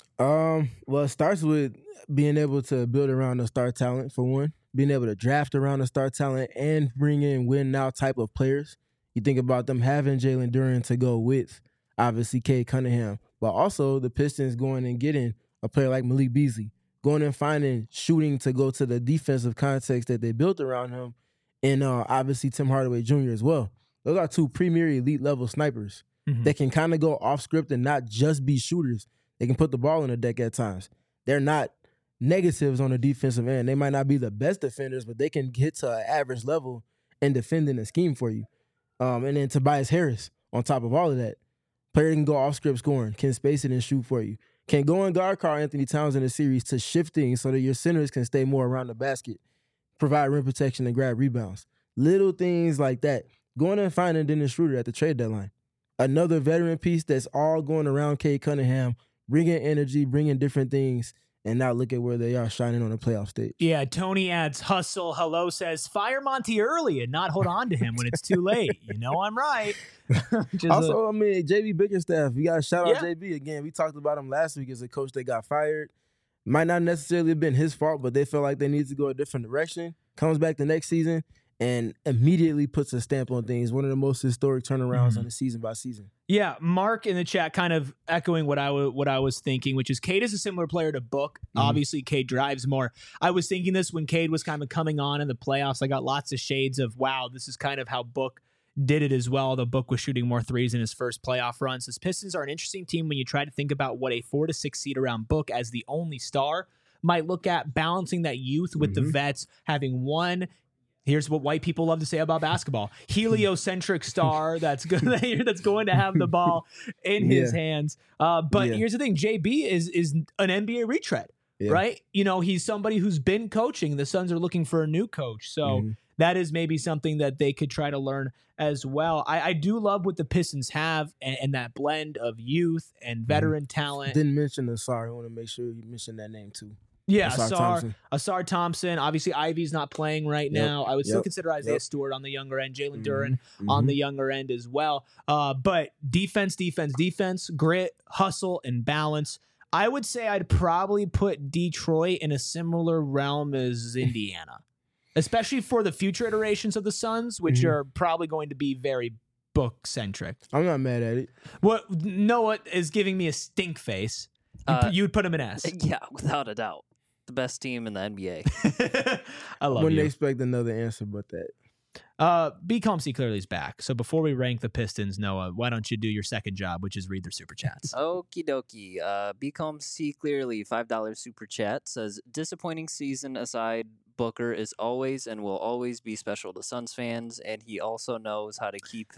Um, well, it starts with being able to build around the star talent, for one. Being able to draft around the star talent and bring in win-now type of players. You think about them having Jalen Duren to go with, obviously, Cade Cunningham. But also the Pistons going and getting a player like Malik Beasley. Going and finding shooting to go to the defensive context that they built around him. And uh, obviously Tim Hardaway Junior as well. Those are two premier elite level snipers mm-hmm. that can kind of go off script and not just be shooters. They can put the ball in the deck at times. They're not negatives on the defensive end. They might not be the best defenders, but they can get to an average level and defend in a scheme for you. Um, and then Tobias Harris on top of all of that. Player can go off script scoring, can space it and shoot for you. Can go and guard Karl Anthony Towns in the series to shifting so that your centers can stay more around the basket, provide rim protection and grab rebounds. Little things like that. Going and finding Dennis Schroeder at the trade deadline. Another veteran piece that's all going around Cade Cunningham, bringing energy, bringing different things, and now look at where they are shining on the playoff stage. Yeah, Tony adds, hustle, hello, says, fire Monty early and not hold on to him when it's too late. You know I'm right. Also, a- I mean, J B Bickerstaff, we got to shout out yeah. J B again. We talked about him last week as a coach that got fired. Might not necessarily have been his fault, but they felt like they needed to go a different direction. Comes back the next season and immediately puts a stamp on things. One of the most historic turnarounds mm-hmm. on the season by season. Yeah, Mark in the chat kind of echoing what I, w- what I was thinking, which is Cade is a similar player to Book. Mm-hmm. Obviously, Cade drives more. I was thinking this when Cade was kind of coming on in the playoffs. I got lots of shades of, wow, this is kind of how Book did it as well. The Book was shooting more threes in his first playoff runs. The Pistons are an interesting team when you try to think about what a four to six seed around Book as the only star might look at, balancing that youth with mm-hmm. the vets, having one. Here's what white people love to say about basketball: heliocentric star that's good, that's going to have the ball in his yeah. hands. Uh, but yeah. here's the thing: J B is is an N B A retread, yeah. right? You know, he's somebody who's been coaching. The Suns are looking for a new coach, so mm-hmm. that is maybe something that they could try to learn as well. I, I do love what the Pistons have and, and that blend of youth and veteran mm-hmm. talent. Didn't mention the sorry. I want to make sure you mention that name too. Yeah, Asar Thompson. Asar Thompson. Obviously, Ivy's not playing right yep. now. I would yep. still consider Isaiah yep. Stewart on the younger end, Jalen mm-hmm. Duren mm-hmm. on the younger end as well. Uh, but defense, defense, defense, grit, hustle, and balance. I would say I'd probably put Detroit in a similar realm as Indiana, especially for the future iterations of the Suns, which mm-hmm. are probably going to be very Book-centric. I'm not mad at it. What Noah is giving me a stink face. You, Uh, you'd put him in S. Yeah, without a doubt. The best team in the N B A. I love Wouldn't you. expect another answer but that. Uh, B C O M C clearly is back. So before we rank the Pistons, Noah, why don't you do your second job, which is read their super chats? Okie dokie. Uh, B C O M C clearly five dollars super chat says, disappointing season aside, Booker is always and will always be special to Suns fans, and he also knows how to keep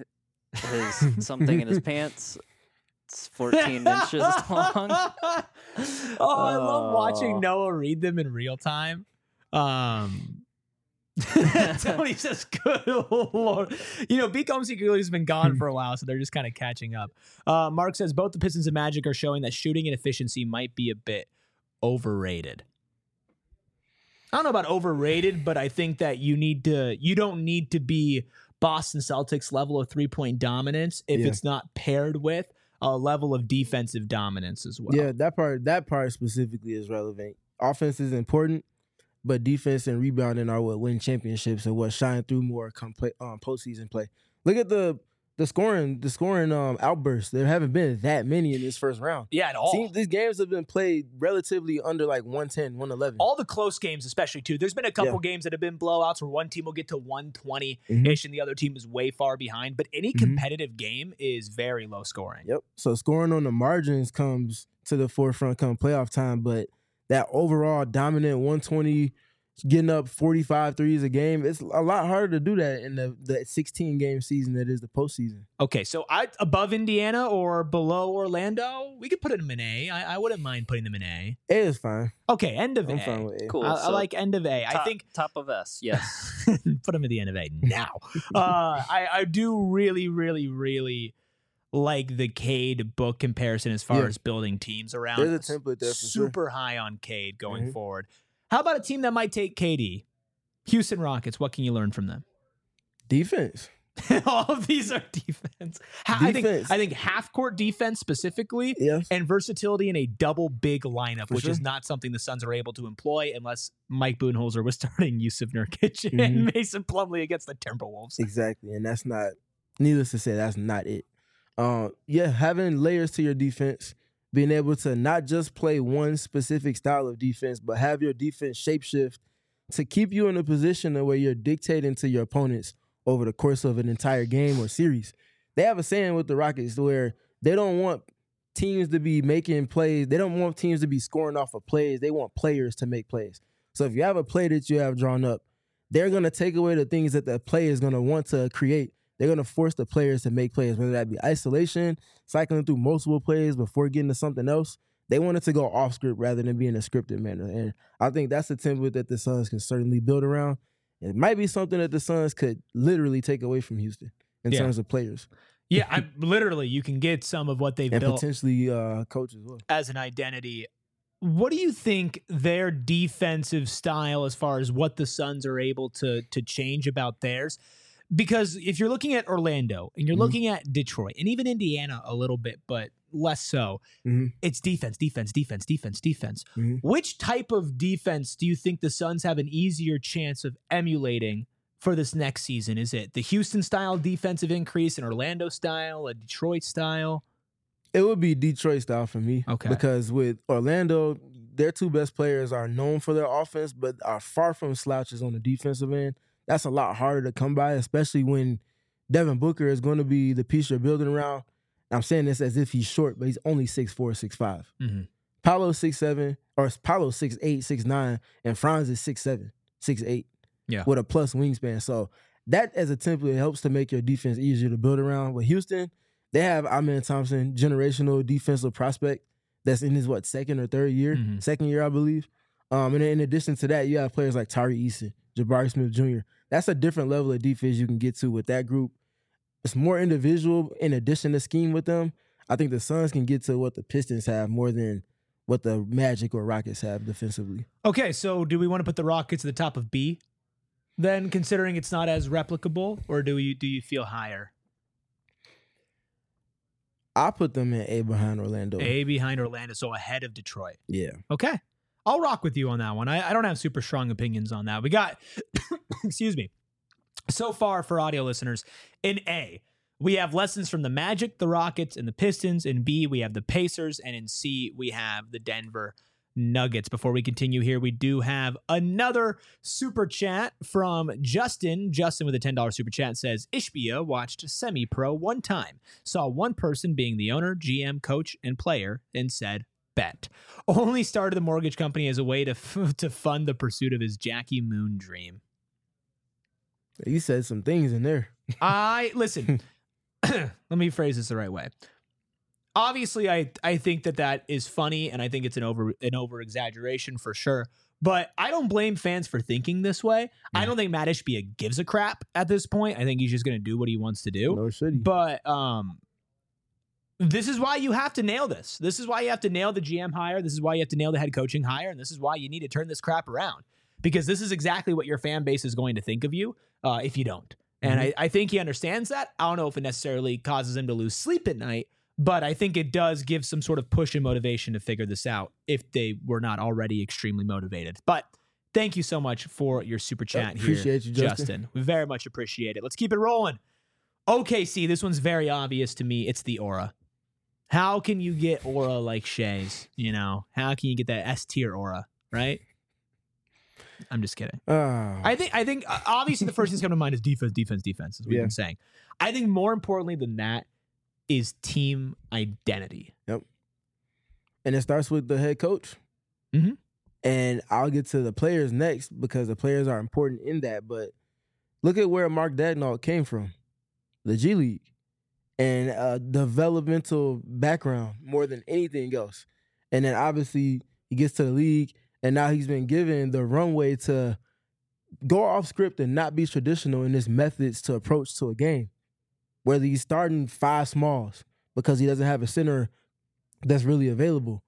his something in his pants. It's fourteen inches long. Oh, I love watching Noah read them in real time. Um, Tony says, good Lord. You know, B C O M C clearly has been gone for a while, so they're just kind of catching up. Uh, Mark says, both the Pistons and Magic are showing that shooting and efficiency might be a bit overrated. I don't know about overrated, but I think that you need to, you don't need to be Boston Celtics level of three-point dominance if yeah. it's not paired with a level of defensive dominance as well. Yeah, that part that part specifically is relevant. Offense is important, but defense and rebounding are what win championships and what shine through more come play, um, postseason play. Look at the the scoring, the scoring um, outbursts. There haven't been that many in this first round. Yeah, at all. See, these games have been played relatively under like one ten, one eleven. All the close games, especially, too. There's been a couple Yeah. games that have been blowouts where one team will get to one twenty-ish Mhm. and the other team is way far behind. But any Mhm. competitive game is very low scoring. Yep. So scoring on the margins comes to the forefront come playoff time, but that overall dominant one twenty, getting up forty-five threes a game, it's a lot harder to do that in the, the sixteen game season that is the postseason. Okay, so I above Indiana or below Orlando, we could put them in A. I, I wouldn't mind putting them in A. A is fine. Okay, end of I'm A. fine with A. Cool. I, I so like end of A. I top, think top of S. Yes. put them at the end of A now. uh, I, I do really, really, really like the Cade book comparison as far Yeah. as building teams around. There's a template there for sure. Super high on Cade going Mhm. forward. How about a team that might take K D? Houston Rockets. What can you learn from them? Defense. All of these are defense. Ha- I think Defense. I think half court defense specifically, Yes. and versatility in a double big lineup, For which is sure. not something the Suns are able to employ unless Mike Budenholzer was starting Yusuf Nurkic and Mason Plumlee against the Timberwolves. Exactly. And that's not, needless to say, that's not it. Uh, yeah, having layers to your defense, being able to not just play one specific style of defense, but have your defense shapeshift to keep you in a position where you're dictating to your opponents over the course of an entire game or series. They have a saying with the Rockets where they don't want teams to be making plays. They don't want teams to be scoring off of plays. They want players to make plays. So if you have a play that you have drawn up, they're going to take away the things that the player is going to want to create. They're going to force the players to make plays, whether that be isolation, cycling through multiple plays before getting to something else. They want it to go off script rather than being a scripted manner. And I think that's a template that the Suns can certainly build around. It might be something that the Suns could literally take away from Houston in Yeah. terms of players Yeah, I, literally, you can get some of what they've and built potentially uh, coach as well. as an identity. What do you think their defensive style, as far as what the Suns are able to to change about theirs? Because if you're looking at Orlando and you're Mhm. looking at Detroit and even Indiana a little bit, but less so, Mhm. it's defense, defense, defense, defense, defense. Mhm. Which type of defense do you think the Suns have an easier chance of emulating for this next season? Is it the Houston style defensive increase, an Orlando style, a Detroit style? It would be Detroit style for me. Okay. Because with Orlando, their two best players are known for their offense, but are far from slouches on the defensive end. That's a lot harder to come by, especially when Devin Booker is going to be the piece you're building around. I'm saying this as if he's short, but he's only six four, six five. Mm-hmm. Paolo's six seven, or Paolo's six eight, six nine, and Franz is six seven, six eight. Yeah. With a plus wingspan. So that as a template helps to make your defense easier to build around. With Houston, they have Amen Thompson, generational defensive prospect that's in his, what, second or third year? Mhm. Second year, I believe. Um, and in addition to that, you have players like Tari Eason, Jabari Smith Junior That's a different level of defense you can get to with that group. It's more individual in addition to scheme with them. I think the Suns can get to what the Pistons have more than what the Magic or Rockets have defensively. Okay, so do we want to put the Rockets at the top of B then, considering it's not as replicable, or do you do you feel higher? I put them in A behind Orlando. A behind Orlando, so ahead of Detroit. Yeah. Okay. I'll rock with you on that one. I, I don't have super strong opinions on that. We got, excuse me, so far for audio listeners, in A, we have lessons from the Magic, the Rockets, and the Pistons. In B, we have the Pacers. And in C, we have the Denver Nuggets. Before we continue here, we do have another super chat from Justin. Justin with a ten dollars super chat says, Ishbia watched semi-pro one time, saw one person being the owner, G M, coach, and player, and said, bet. Only started the mortgage company as a way to f- to fund the pursuit of his Jackie Moon dream. You said some things in there. I listen. Let me phrase this the right way. Obviously, I I think that that is funny, and I think it's an over an over exaggeration for sure. But I don't blame fans for thinking this way. I don't think Matt Ishbia gives a crap at this point. I think he's just going to do what he wants to do. No should he. But um, this is why you have to nail this. This is why you have to nail the G M hire. This is why you have to nail the head coaching hire. And this is why you need to turn this crap around. Because this is exactly what your fan base is going to think of you uh, if you don't. And Mm-hmm. I, I think he understands that. I don't know if it necessarily causes him to lose sleep at night, but I think it does give some sort of push and motivation to figure this out if they were not already extremely motivated. But thank you so much for your super chat here, Appreciate you, Justin. Justin. We very much appreciate it. Let's keep it rolling. O K C, this one's very obvious to me. It's the aura. How can you get aura like Shai's? You know, how can you get that S tier aura, right? I'm just kidding. Uh, I think I think uh, obviously the first thing that's coming to mind is defense, defense, defense, as we've Yeah. been saying. I think more importantly than that is team identity. Yep. And it starts with the head coach. Mhm. And I'll get to the players next because the players are important in that. But look at where Mark Daigneault came from, the G League, and a developmental background more than anything else. And then obviously he gets to the league, and now he's been given the runway to go off script and not be traditional in his methods to approach to a game. Whether he's starting five smalls because he doesn't have a center that's really available,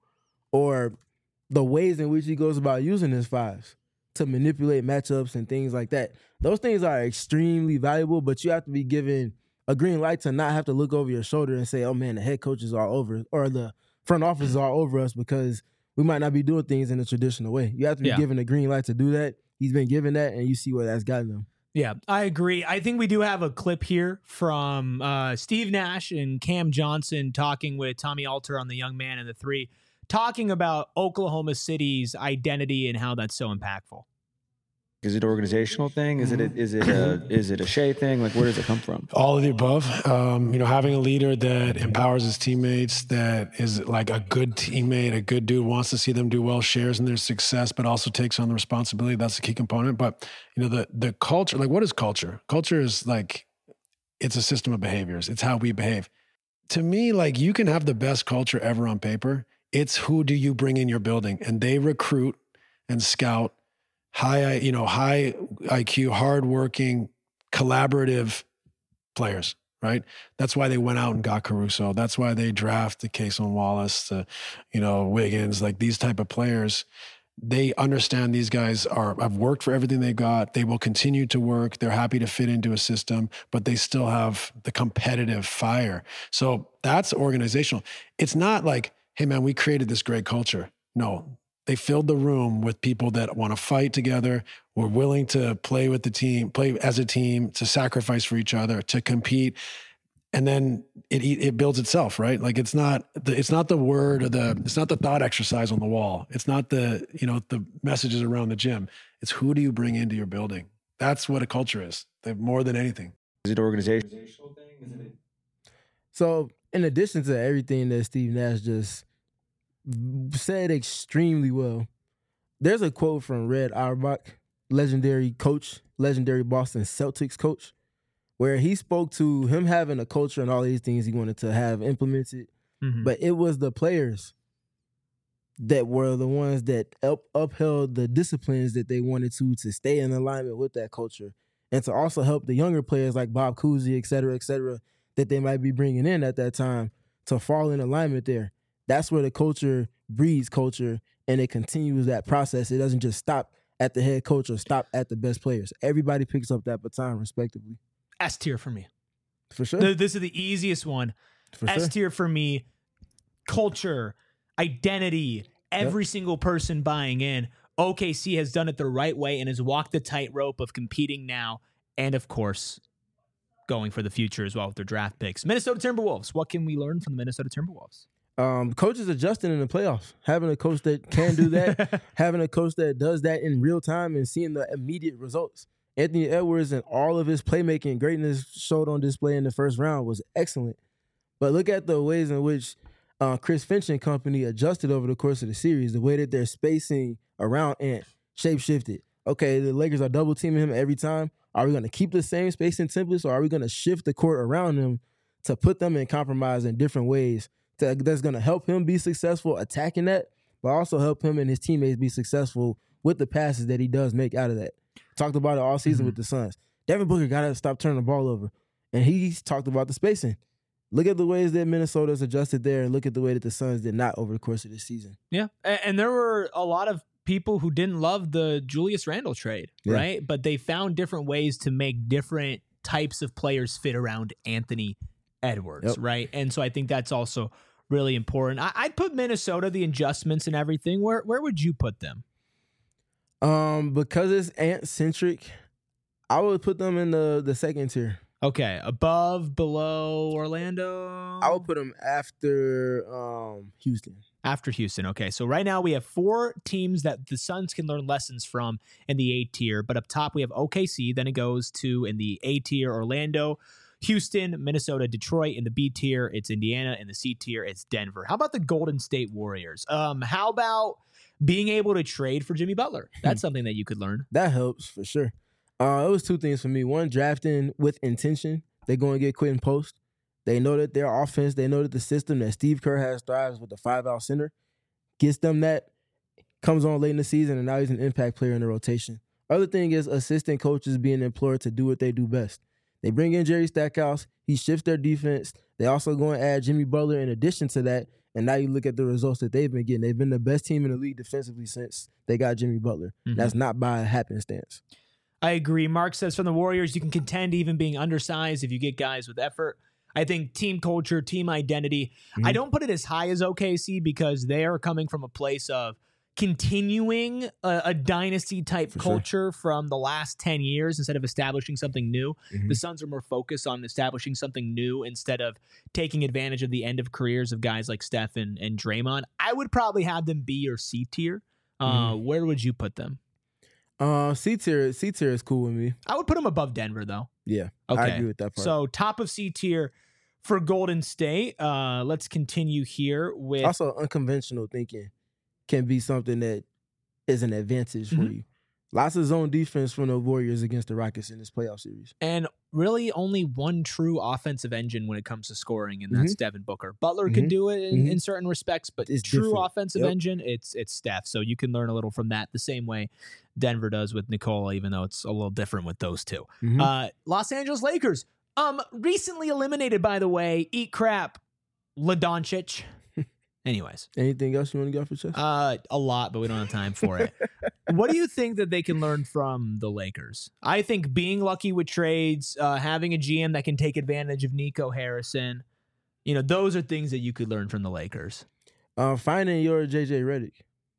or the ways in which he goes about using his fives to manipulate matchups and things like that. Those things are extremely valuable, but you have to be given a green light to not have to look over your shoulder and say, oh man, the head coach is all over, or the front office is all over us because we might not be doing things in a traditional way. You have to be Yeah. given a green light to do that. He's been given that, and you see where that's gotten him. Yeah, I agree. I think we do have a clip here from uh, Steve Nash and Cam Johnson talking with Tommy Alter on The Young Man and the Three, talking about Oklahoma City's identity and how that's so impactful. Is it an organizational thing? Is it a, is it a is it a Shea thing? Like, where does it come from? All of the above. Um, you know, having a leader that empowers his teammates, that is like a good teammate, a good dude, wants to see them do well, shares in their success, but also takes on the responsibility. That's a key component. But, you know, the the culture, like what is culture? Culture is like, it's a system of behaviors. It's how we behave. To me, like you can have the best culture ever on paper. It's who do you bring in your building? And they recruit and scout high, you know, high I Q, hardworking, collaborative players, right? That's why they went out and got Caruso. That's why they drafted Cason Wallace, to, you know, Wiggins, like these type of players. They understand these guys are have worked for everything they got. They will continue to work. They're happy to fit into a system, but they still have the competitive fire. So that's organizational. It's not like, hey man, we created this great culture. No. They filled the room with people that want to fight together, were willing to play with the team, play as a team, to sacrifice for each other, to compete, and then it it builds itself, right? Like it's not the it's not the word or the it's not the thought exercise on the wall. It's not the you know the messages around the gym. It's who do you bring into your building? That's what a culture is. More than anything. Is it an organizational thing? Is it So in addition to everything that Steve Nash just said extremely well, there's a quote from Red Auerbach, legendary coach, legendary Boston Celtics coach, where he spoke to him having a culture and all these things he wanted to have implemented, Mhm. but it was the players that were the ones that up, upheld the disciplines that they wanted to to stay in alignment with that culture, and to also help the younger players like Bob Cousy, et cetera, et cetera, that they might be bringing in at that time to fall in alignment there. That's where the culture breeds culture, and it continues that process. It doesn't just stop at the head coach or stop at the best players. Everybody picks up that baton respectively. S tier for me. For sure. Th- This is the easiest one. For S sure. tier for me. Culture, identity, every single person buying in. O K C has done it the right way and has walked the tightrope of competing now, and of course, going for the future as well with their draft picks. Minnesota Timberwolves. What can we learn from the Minnesota Timberwolves? Um, coaches adjusting in the playoffs. Having a coach that can do that, having a coach that does that in real time and seeing the immediate results. Anthony Edwards and all of his playmaking greatness showed on display in the first round was excellent. But look at the ways in which uh, Chris Finch and company adjusted over the course of the series, the way that they're spacing around Ant, shape-shifted. Okay, the Lakers are double teaming him every time. Are we going to keep the same spacing templates, or are we going to shift the court around him to put them in compromise in different ways to, that's going to help him be successful attacking that, but also help him and his teammates be successful with the passes that he does make out of that. Talked about it all season Mm-hmm. with the Suns. Devin Booker got to stop turning the ball over. And he's talked about the spacing. Look at the ways that Minnesota's adjusted there, and look at the way that the Suns did not over the course of this season. Yeah, a- and there were a lot of people who didn't love the Julius Randle trade, Yeah. right? But they found different ways to make different types of players fit around Anthony Edwards, Yep. right? And so I think that's also really important. I- I'd put Minnesota, the adjustments and everything. Where where would you put them? Um, because it's Ant-centric, I would put them in the, the second tier. Okay, above, below Orlando? I would put them after um, Houston. After Houston. Okay, so right now we have four teams that the Suns can learn lessons from in the A tier, but up top we have O K C, then it goes to in the A tier Orlando, Houston, Minnesota, Detroit. In the B tier, it's Indiana. In the C tier, it's Denver. How about the Golden State Warriors? Um, how about being able to trade for Jimmy Butler? That's something that you could learn. That helps for sure. Uh, it was two things for me. One, drafting with intention. They're going to get quit in post. They know that their offense, they know that the system that Steve Kerr has thrives with the five-out center. Gets them that, comes on late in the season, and now he's an impact player in the rotation. Other thing is assistant coaches being employed to do what they do best. They bring in Jerry Stackhouse. He shifts their defense. They also go and add Jimmy Butler in addition to that. And now you look at the results that they've been getting. They've been the best team in the league defensively since they got Jimmy Butler. Mm-hmm. That's not by happenstance. I agree. Mark says from the Warriors, you can contend even being undersized if you get guys with effort. I think team culture, team identity. Mm-hmm. I don't put it as high as O K C because they are coming from a place of continuing a, a dynasty type For culture sure. from the last ten years instead of establishing something new. Mm-hmm. The Suns are more focused on establishing something new instead of taking advantage of the end of careers of guys like Steph and, and Draymond. I would probably have them B or C tier. Uh, Mm-hmm. Where would you put them? Uh, C tier, C tier is cool with me. I would put them above Denver, though. Yeah, Okay. I agree with that part. So top of C tier for Golden State. Uh, let's continue here with Also, unconventional thinking can be something that is an advantage for Mhm. you. Lots of zone defense from the Warriors against the Rockets in this playoff series. and really only one true offensive engine when it comes to scoring, and that's Devin Booker. Butler can Mhm. do it in, Mhm. in certain respects, but It's true different. offensive Yep. engine, it's it's Steph. So you can learn a little from that the same way Denver does with Nikola, even though it's a little different with those two. Mhm. Uh, Los Angeles Lakers, um, recently eliminated, by the way. Eat crap, LaDoncic. Anyways. Anything else you want to get off your chest? Uh, a lot, but we don't have time for it. What do you think that they can learn from the Lakers? I think being lucky with trades, uh, having a G M that can take advantage of Nico Harrison, you know, those are things that you could learn from the Lakers. Uh, finding your J J Redick,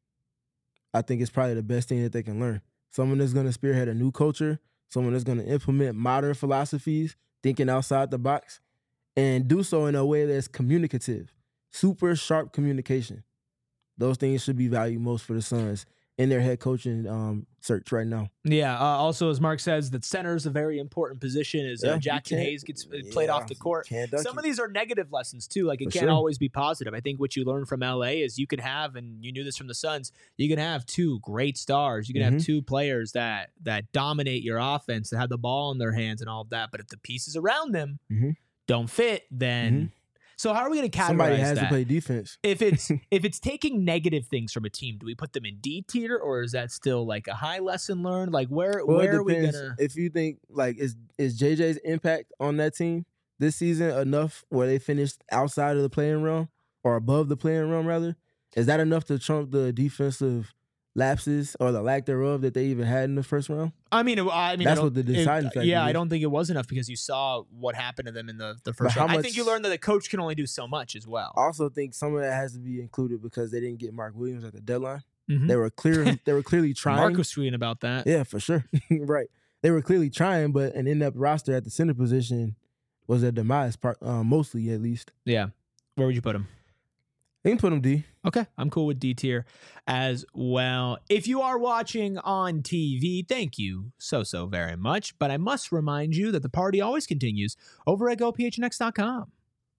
I think it's probably the best thing that they can learn. Someone that's going to spearhead a new culture, someone that's going to implement modern philosophies, thinking outside the box, and do so in a way that's communicative. Super sharp communication. Those things should be valued most for the Suns in their head coaching um, search right now. Yeah. Uh, also, as Mark says, that center is a very important position as Yeah, uh, you Jackson can't- Hayes gets uh, played yeah, off the court. can't dunk Some it. of these are negative lessons too. Like it For can't sure. always be positive. I think what you learn from L A is you could have, and you knew this from the Suns, you can have two great stars. You can have Mhm. two players that that dominate your offense, that have the ball in their hands and all of that. But if the pieces around them Mhm. don't fit, then Mhm. so how are we going to categorize Somebody has that? to play defense. If it's if it's taking negative things from a team, do we put them in D tier, or is that still like a high lesson learned? Like where Well, where it are we depends. gonna? If you think like is is J J's impact on that team this season enough where they finished outside of the playing realm or above the playing realm rather? Is that enough to trump the defensive lapses or the lack thereof that they even had in the first round? I mean, I mean, I That's don't- what the deciding it- factor Yeah, I is. don't think it was enough because you saw what happened to them in the, the first how round. I think you much- learned that the coach can only do so much as well. I also think some of that has to be included because they didn't get Mark Williams at the deadline. Mhm. They were clear. They were clearly trying. Mark was tweeting about that. Yeah, for sure. Right. They were clearly trying, but an in-depth roster at the center position was their demise, part, uh, mostly at least. Yeah. Where would you put him? They can put them D. Okay, I'm cool with D tier as well. If you are watching on T V, thank you so, so very much. But I must remind you that the party always continues over at go p h n x dot com.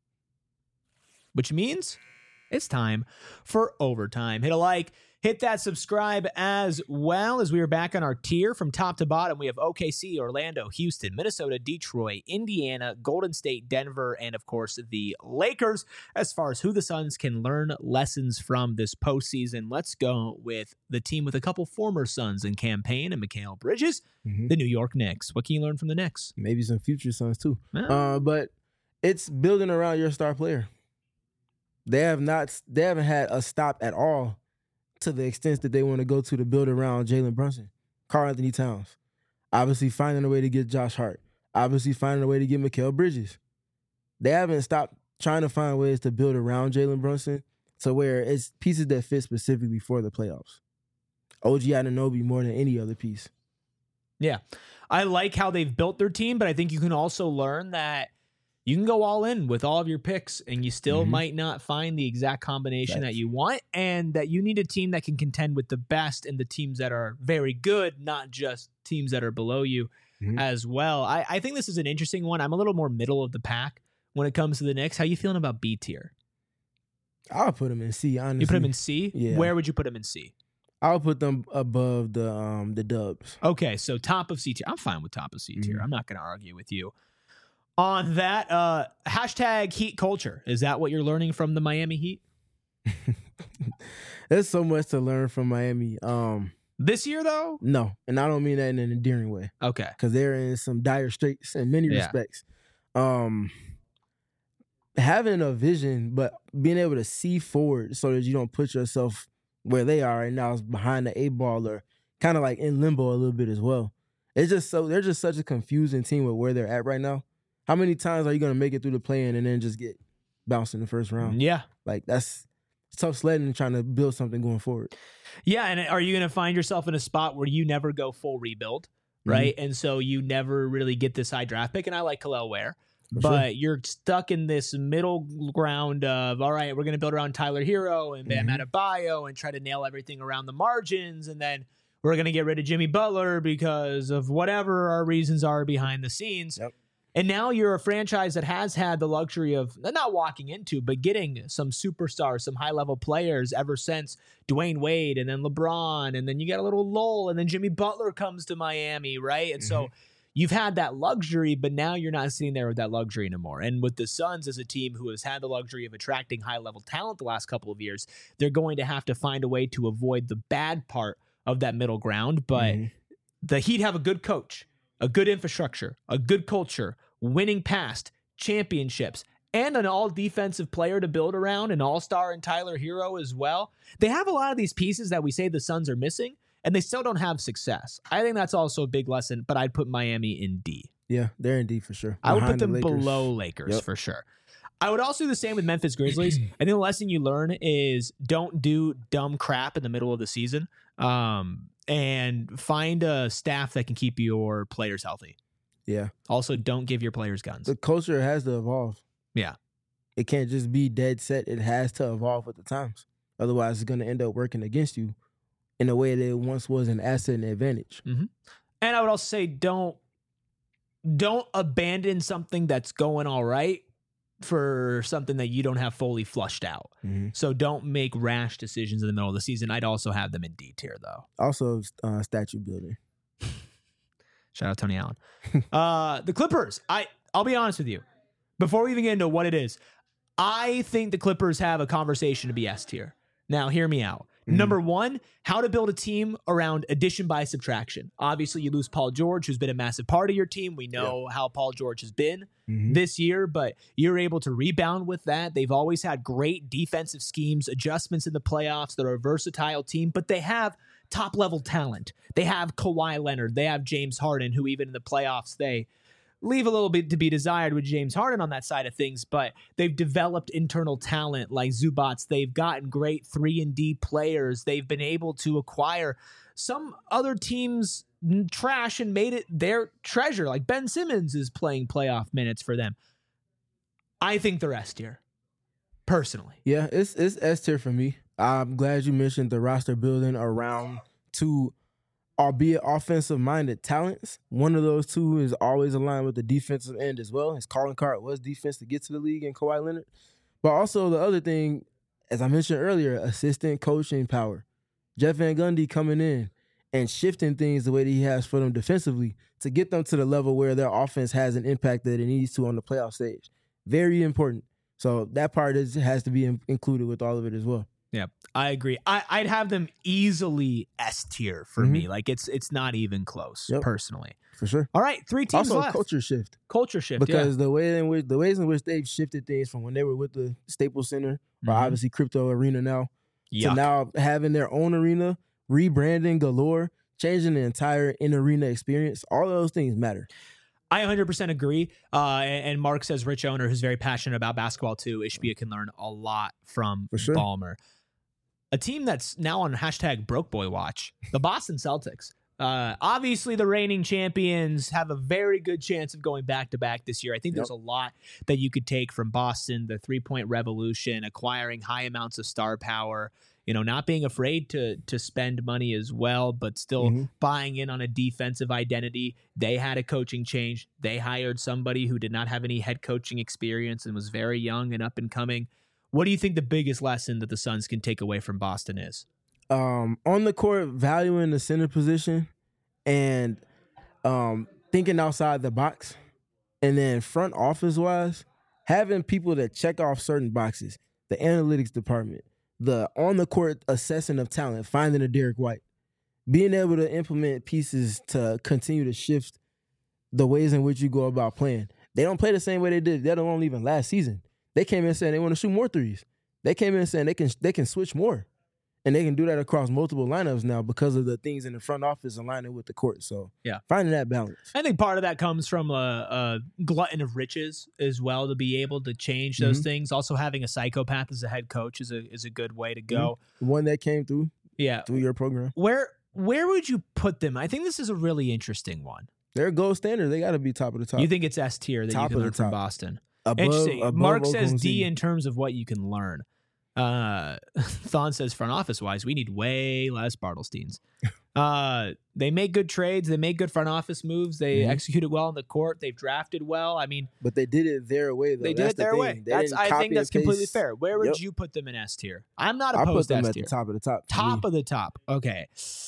Which means it's time for overtime. Hit a like, hit that subscribe as well, as we are back on our tier from top to bottom. We have O K C, Orlando, Houston, Minnesota, Detroit, Indiana, Golden State, Denver, and of course the Lakers. As far as who the Suns can learn lessons from this postseason, let's go with the team with a couple former Suns in campaign and Mikal Bridges, Mhm. the New York Knicks. What can you learn from the Knicks? Maybe some future Suns too. Well, Uh, but it's building around your star player. They have not. They haven't had a stop at all to the extent that they want to go to to build around Jalen Brunson, Karl Anthony Towns. Obviously finding a way to get Josh Hart. Obviously finding a way to get Mikal Bridges. They haven't stopped trying to find ways to build around Jalen Brunson to where it's pieces that fit specifically for the playoffs. O G Anunoby more than any other piece. Yeah. I like how they've built their team, but I think you can also learn that you can go all in with all of your picks and you still Mm-hmm. might not find the exact combination Right. that you want, and that you need a team that can contend with the best and the teams that are very good, not just teams that are below you Mhm. as well. I, I think this is an interesting one. I'm a little more middle of the pack when it comes to the Knicks. How you feeling about B tier? I'll put them in C. Honestly, You put them in C? Yeah. Where would you put them in C? I'll put them above the um the Dubs. Okay, so top of C tier. I'm fine with top of C tier. Mhm. I'm not going to argue with you on that. Uh, hashtag Heat culture. Is that what you're learning from the Miami Heat There's so much to learn from Miami. Um, this year, though? no, and I don't mean that in an endearing way Okay. because they're in some dire straits in many Yeah. respects. Um, having a vision, but being able to see forward so that you don't put yourself where they are right now is behind the eight ball or kind of like in limbo a little bit as well. It's just so they're just such a confusing team with where they're at right now. How many times are you going to make it through the play-in and then just get bounced in the first round? Yeah. Like that's it's tough sledding and trying to build something going forward. Yeah, and are you going to find yourself in a spot where you never go full rebuild, right? And so you never really get this high draft pick, and I like Khalil Ware. For But sure. you're stuck in this middle ground of, all right, we're going to build around Tyler Hero and Bam Mhm. Adebayo and try to nail everything around the margins. And then we're going to get rid of Jimmy Butler because of whatever our reasons are behind the scenes. Yep. And now you're a franchise that has had the luxury of not walking into, but getting some superstars, some high level players ever since Dwayne Wade and then LeBron. And then you got a little lull and then Jimmy Butler comes to Miami, right? And so you've had that luxury, but now you're not sitting there with that luxury anymore. And with the Suns as a team who has had the luxury of attracting high level talent the last couple of years, they're going to have to find a way to avoid the bad part of that middle ground. But Mhm. the Heat have a good coach, a good infrastructure, a good culture, winning past championships, and an all defensive player to build around, an all-star in Tyler Hero as well. They have a lot of these pieces that we say the Suns are missing, and they still don't have success. I think that's also a big lesson, but I'd put Miami in D. Yeah, they're in D for sure. I would put Behind the them Lakers. below Lakers Yep. for sure. I would also do the same with Memphis Grizzlies. I think the lesson you learn is don't do dumb crap in the middle of the season, um, and find a staff that can keep your players healthy. Yeah. Also, don't give your players guns. The culture has to evolve. Yeah. It can't just be dead set. It has to evolve with the times. Otherwise, it's going to end up working against you in a way that it once was an asset and advantage. And I would also say don't don't abandon something that's going all right for something that you don't have fully flushed out. Mm-hmm. So don't make rash decisions in the middle of the season. I'd also have them in D tier though. Also, uh, statue building. Shout out Tony Allen. uh, the Clippers. I I'll be honest with you. Before we even get into what it is, I think the Clippers have a conversation to be S tier. Now, hear me out. Mhm. Number one, how to build a team around addition by subtraction. Obviously, you lose Paul George, who's been a massive part of your team. We know how Paul George has been Mhm. this year, but you're able to rebound with that. They've always had great defensive schemes, adjustments in the playoffs. They're a versatile team, but they have top level talent. They have Kawhi Leonard. They have James Harden, who even in the playoffs, they leave a little bit to be desired with James Harden on that side of things, but they've developed internal talent like Zubats. They've gotten great three and D players. They've been able to acquire some other teams trash and made it their treasure. Like Ben Simmons is playing playoff minutes for them. I think they're S tier, personally. Yeah, it's it's S tier for me. I'm glad you mentioned the roster building around two, albeit offensive-minded talents. One of those two is always aligned with the defensive end as well. His calling card was defense to get to the league in Kawhi Leonard. But also the other thing, as I mentioned earlier, assistant coaching power. Jeff Van Gundy coming in and shifting things the way that he has for them defensively to get them to the level where their offense has an impact that it needs to on the playoff stage. Very important. So that part is has to be in, included with all of it as well. Yeah, I agree. I, I'd have them easily S tier for Mhm. me. Like it's it's not even close, Yep. personally. For sure. All right, three teams Also, left. culture shift Culture shift, because the way in which the ways in which they've shifted things from when they were with the Staples Center or Mhm. obviously Crypto Arena now yeah. to now having their own arena, rebranding galore, changing the entire in arena experience. All of those things matter. I one hundred percent agree. Uh, and, and Mark says, rich owner who's very passionate about basketball too. Ishbia can learn a lot from For sure. Ballmer. A team that's now on hashtag Broke Boy Watch, the Boston Celtics. Uh, obviously, the reigning champions have a very good chance of going back to back this year. I think Yep. there's a lot that you could take from Boston, the three point revolution, acquiring high amounts of star power, you know, not being afraid to to spend money as well, but still Mhm. buying in on a defensive identity. They had a coaching change. They hired somebody who did not have any head coaching experience and was very young and up and coming. What do you think the biggest lesson that the Suns can take away from Boston is? Um, on the court, valuing the center position and um, thinking outside the box. And then front office wise, having people that check off certain boxes, the analytics department, the on the court assessing of talent, finding a Derek White, being able to implement pieces to continue to shift the ways in which you go about playing. They don't play the same way they did, let alone even last season. They came in saying they want to shoot more threes. They came in saying they can they can switch more. And they can do that across multiple lineups now because of the things in the front office aligning with the court. So Yeah. finding that balance. I think part of that comes from a, a glutton of riches as well, to be able to change those Mhm. things. Also, having a psychopath as a head coach is a is a good way to go. One that came through Yeah. through your program. Where where would you put them? I think this is a really interesting one. They're gold standard. They got to be top of the top. You think it's S tier that Top you of can the learn from top. Boston? above, Interesting. above Mark says Oklahoma D City. in terms of what you can learn. Uh, Thon says front office wise, we need way less Bartlesteins. Uh, they make good trades. They make good front office moves. They Mhm. executed well on the court. They've drafted well. I mean, But they did it their way, though. they did That's it the their thing. way. They That's didn't I copy think that's and completely paste. fair. Where would Yep. you put them in S tier? I'm not I put opposed to them S at tier. the top of the top. to Top me. of the top. Okay.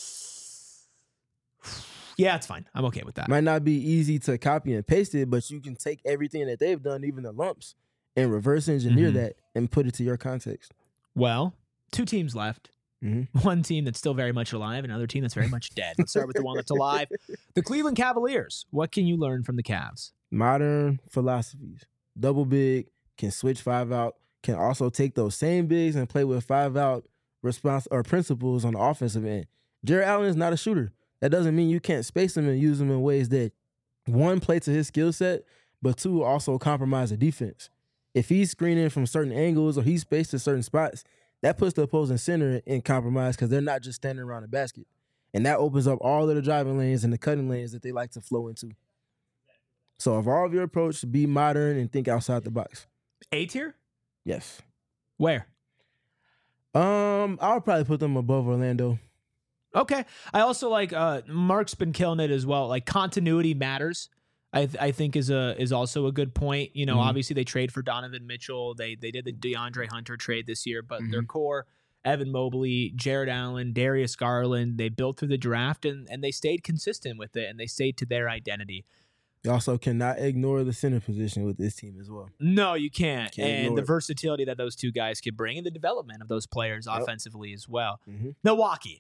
Yeah, it's fine. I'm okay with that. Might not be easy to copy and paste it, but you can take everything that they've done, even the lumps, and reverse engineer Mhm. that and put it to your context. Well, two teams left. Mhm. One team that's still very much alive, and another team that's very much dead. Let's start with the one that's alive. The Cleveland Cavaliers. What can you learn from the Cavs? Modern philosophies. Double big, can switch five out, can also take those same bigs and play with five out response or principles on the offensive end. Jared Allen is not a shooter. That doesn't mean you can't space him and use him in ways that, one, play to his skill set, but two, also compromise the defense. If he's screening from certain angles or he's spaced to certain spots, that puts the opposing center in compromise because they're not just standing around the basket. And that opens up all of the driving lanes and the cutting lanes that they like to flow into. So evolve your approach, be modern, and think outside the box. A tier? Yes. Where? Um, I would probably put them above Orlando. Okay. I also like uh Mark's been killing it as well. Like continuity matters. I th- I think is a is also a good point. You know, Mhm. obviously they trade for Donovan Mitchell. They they did the DeAndre Hunter trade this year, but their core, Evan Mobley, Jared Allen, Darius Garland, they built through the draft and and they stayed consistent with it and they stayed to their identity. You also cannot ignore the center position with this team as well. No, you can't. Can't and ignore the it. versatility that those two guys can bring and the development of those players Yep. offensively as well. Mhm. Milwaukee.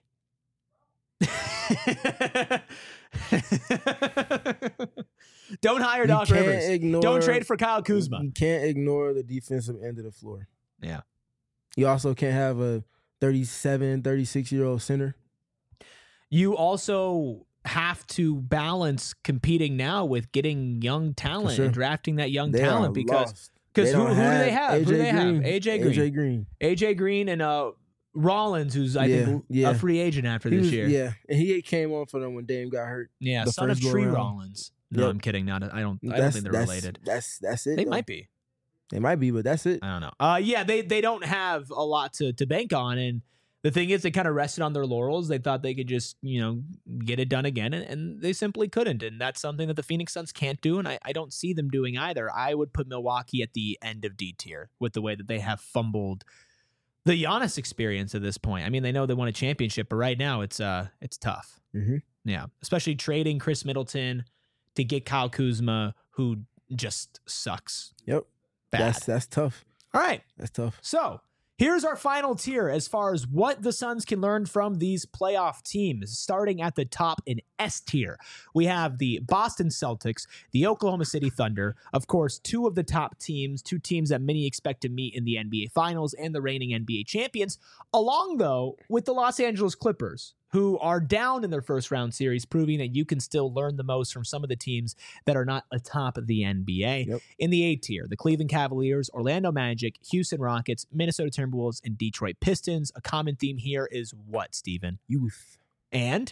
Don't hire You Doc can't Rivers. ignore- Don't trade for Kyle Kuzma. You can't ignore the defensive end of the floor. Yeah. You also can't have a thirty-seven, thirty-six-year-old center. You also have to balance competing now with getting young talent sure. and drafting that young They talent are because lost. because They who, don't who do they have? Who do A J they have? A J Green. A J Green. A J Green and uh Rollins, who's I Yeah, think yeah. a free agent after He this was- year. Yeah, and he came on for them when Dame got hurt. Yeah, the son of first go Tree around. Rollins. No, Yep. I'm kidding. Not I don't I don't That's- think they're that's- related. That's that's it. They though. might be. They might be, but that's it. I don't know. Uh, yeah, they they don't have a lot to to bank on, and the thing is, they kind of rested on their laurels. They thought they could just you know get it done again, and, and they simply couldn't. And that's something that the Phoenix Suns can't do, and I, I don't see them doing either. I would put Milwaukee at the end of D tier with the way that they have fumbled the Giannis experience at this point. I mean, they know they won a championship, but right now it's uh it's tough. Mhm. Yeah, especially trading Chris Middleton to get Kyle Kuzma, who just sucks. Yep. Bad. That's that's tough. All right. That's tough. So here's our final tier as far as what the Suns can learn from these playoff teams. Starting at the top in S tier, we have the Boston Celtics, the Oklahoma City Thunder, of course, two of the top teams, two teams that many expect to meet in the N B A Finals and the reigning N B A champions, along, though, with the Los Angeles Clippers, who are down in their first round series, proving that you can still learn the most from some of the teams that are not atop of the N B A. Yep. In the A tier, the Cleveland Cavaliers, Orlando Magic, Houston Rockets, Minnesota Timberwolves, and Detroit Pistons. A common theme here is what, Steven? Youth. And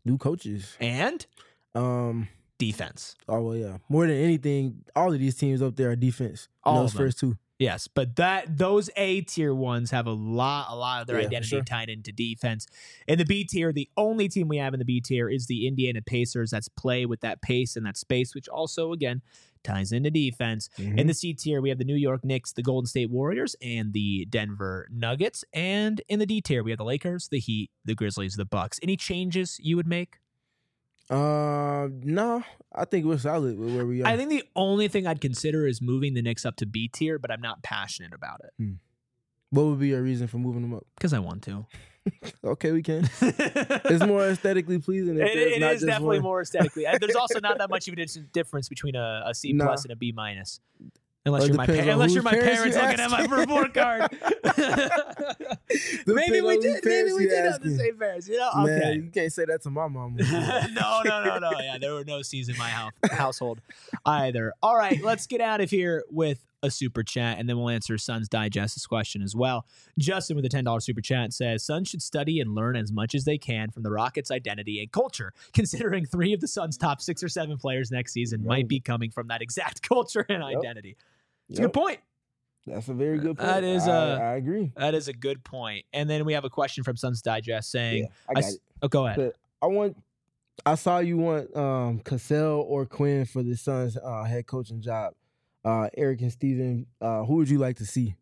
New coaches. And Um. defense. Oh well, yeah. More than anything, all of these teams up there are defense. All those of them. first two. Yes, but that those A tier ones have a lot, a lot of their Yeah, for identity sure. tied into defense. In the B tier, the only team we have in the B tier is the Indiana Pacers. That's play with that pace and that space, which also again ties into defense. Mhm. In the C tier, we have the New York Knicks, the Golden State Warriors, and the Denver Nuggets. And in the D tier, we have the Lakers, the Heat, the Grizzlies, the Bucks. Any changes you would make? Uh, no, I think we're solid with where we are. I think the only thing I'd consider is moving the Knicks up to B tier, but I'm not passionate about it What would be your reason for moving them up? because I want to. Okay, we can. It's more aesthetically pleasing. If It, there's it not is just definitely one. more aesthetically. Uh, There's also not that much of a dis- difference between a, a C Nah. plus and a B minus, unless Well, it you're my pa- depends on unless whose you're my parents parents you looking at my asking. report card. maybe Depends we on did. whose Maybe parents we you did have the asking. same parents. You know? Man, Okay. you can't say that to my mom. no, no, no, no. Yeah, there were no C's in my house, household either. All right, let's get out of here with a super chat, and then we'll answer Suns Digest's question as well. Justin with a ten dollars super chat says, Suns should study and learn as much as they can from the Rockets' identity and culture, considering three of the Suns' top six or seven players next season Yep. might be coming from that exact culture and Yep. identity. It's a good point. That's a very good point. That is, I, uh, I agree. That is a good point. And then we have a question from Suns Digest saying, Yeah, I got s- it. Oh, go ahead. But I want. I saw you want um, Cassell or Quinn for the Suns' uh, head coaching job. Uh, Eric and Steven, uh, who would you like to see?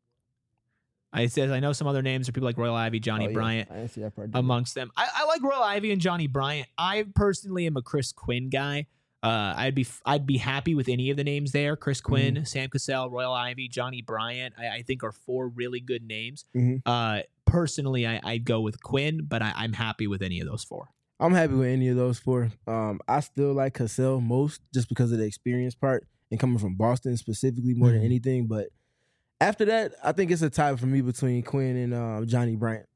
I says I know some other names are people like Royal Ivy, Johnny Oh, yeah. Bryant. I didn't see that part. Amongst them. I, I like Royal Ivy and Johnny Bryant. I personally am a Chris Quinn guy. Uh, I'd be I'd be happy with any of the names there. Chris Quinn, Sam Cassell, Royal Ivy, Johnny Bryant. I, I think are four really good names. Mhm. Uh, personally, I, I'd go with Quinn, but I, I'm happy with any of those four. I'm happy with any of those four. Um, I still like Cassell most just because of the experience part and coming from Boston specifically more than Mhm. anything. But after that, I think it's a tie for me between Quinn and uh, Johnny Bryant.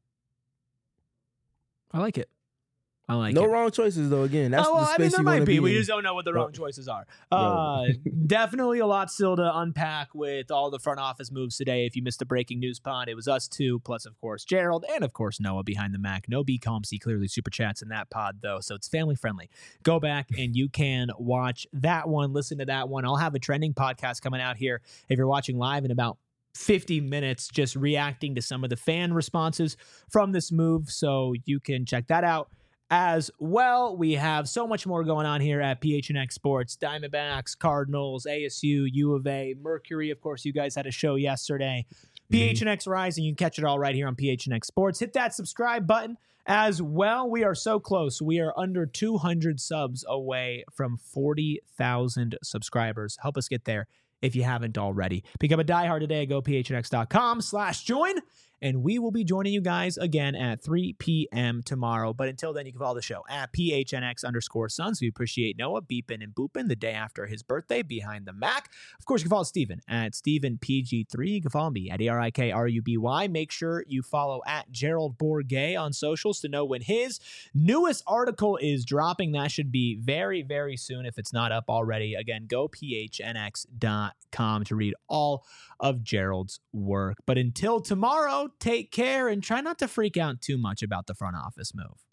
I like it. I like no it. wrong choices though. Again, that's oh, well, the I space mean, there you might want to be. be. We in. just don't know what the wrong Right. choices are. Right. Uh, definitely a lot still to unpack with all the front office moves today. If you missed the breaking news pod, it was us two, plus, of course, Gerald, and, of course, Noah behind the Mac. No B Com C clearly super chats in that pod, though, so it's family friendly. Go back and you can watch that one, listen to that one. I'll have a trending podcast coming out here if you're watching live in about fifty minutes, just reacting to some of the fan responses from this move, so you can check that out as well. We have so much more going on here at P H N X Sports. Diamondbacks, Cardinals, A S U, U of A, Mercury. Of course, you guys had a show yesterday. P H N X Rising. You can catch it all right here on P H N X Sports. Hit that subscribe button as well. We are so close. We are under two hundred subs away from forty thousand subscribers. Help us get there if you haven't already. Become a diehard today. Go P H N X dot com slash join. And we will be joining you guys again at three p.m. tomorrow. But until then, you can follow the show at P H N X underscore Suns. We appreciate Noah beeping and booping the day after his birthday behind the Mac. Of course, you can follow Steven at Steven P G three. You can follow me at A R I K R U B Y. Make sure you follow at Gerald Bourguet on socials to know when his newest article is dropping. That should be very, very soon if it's not up already. Again, go P H N X dot com to read all of Gerald's work. But until tomorrow, take care and try not to freak out too much about the front office move.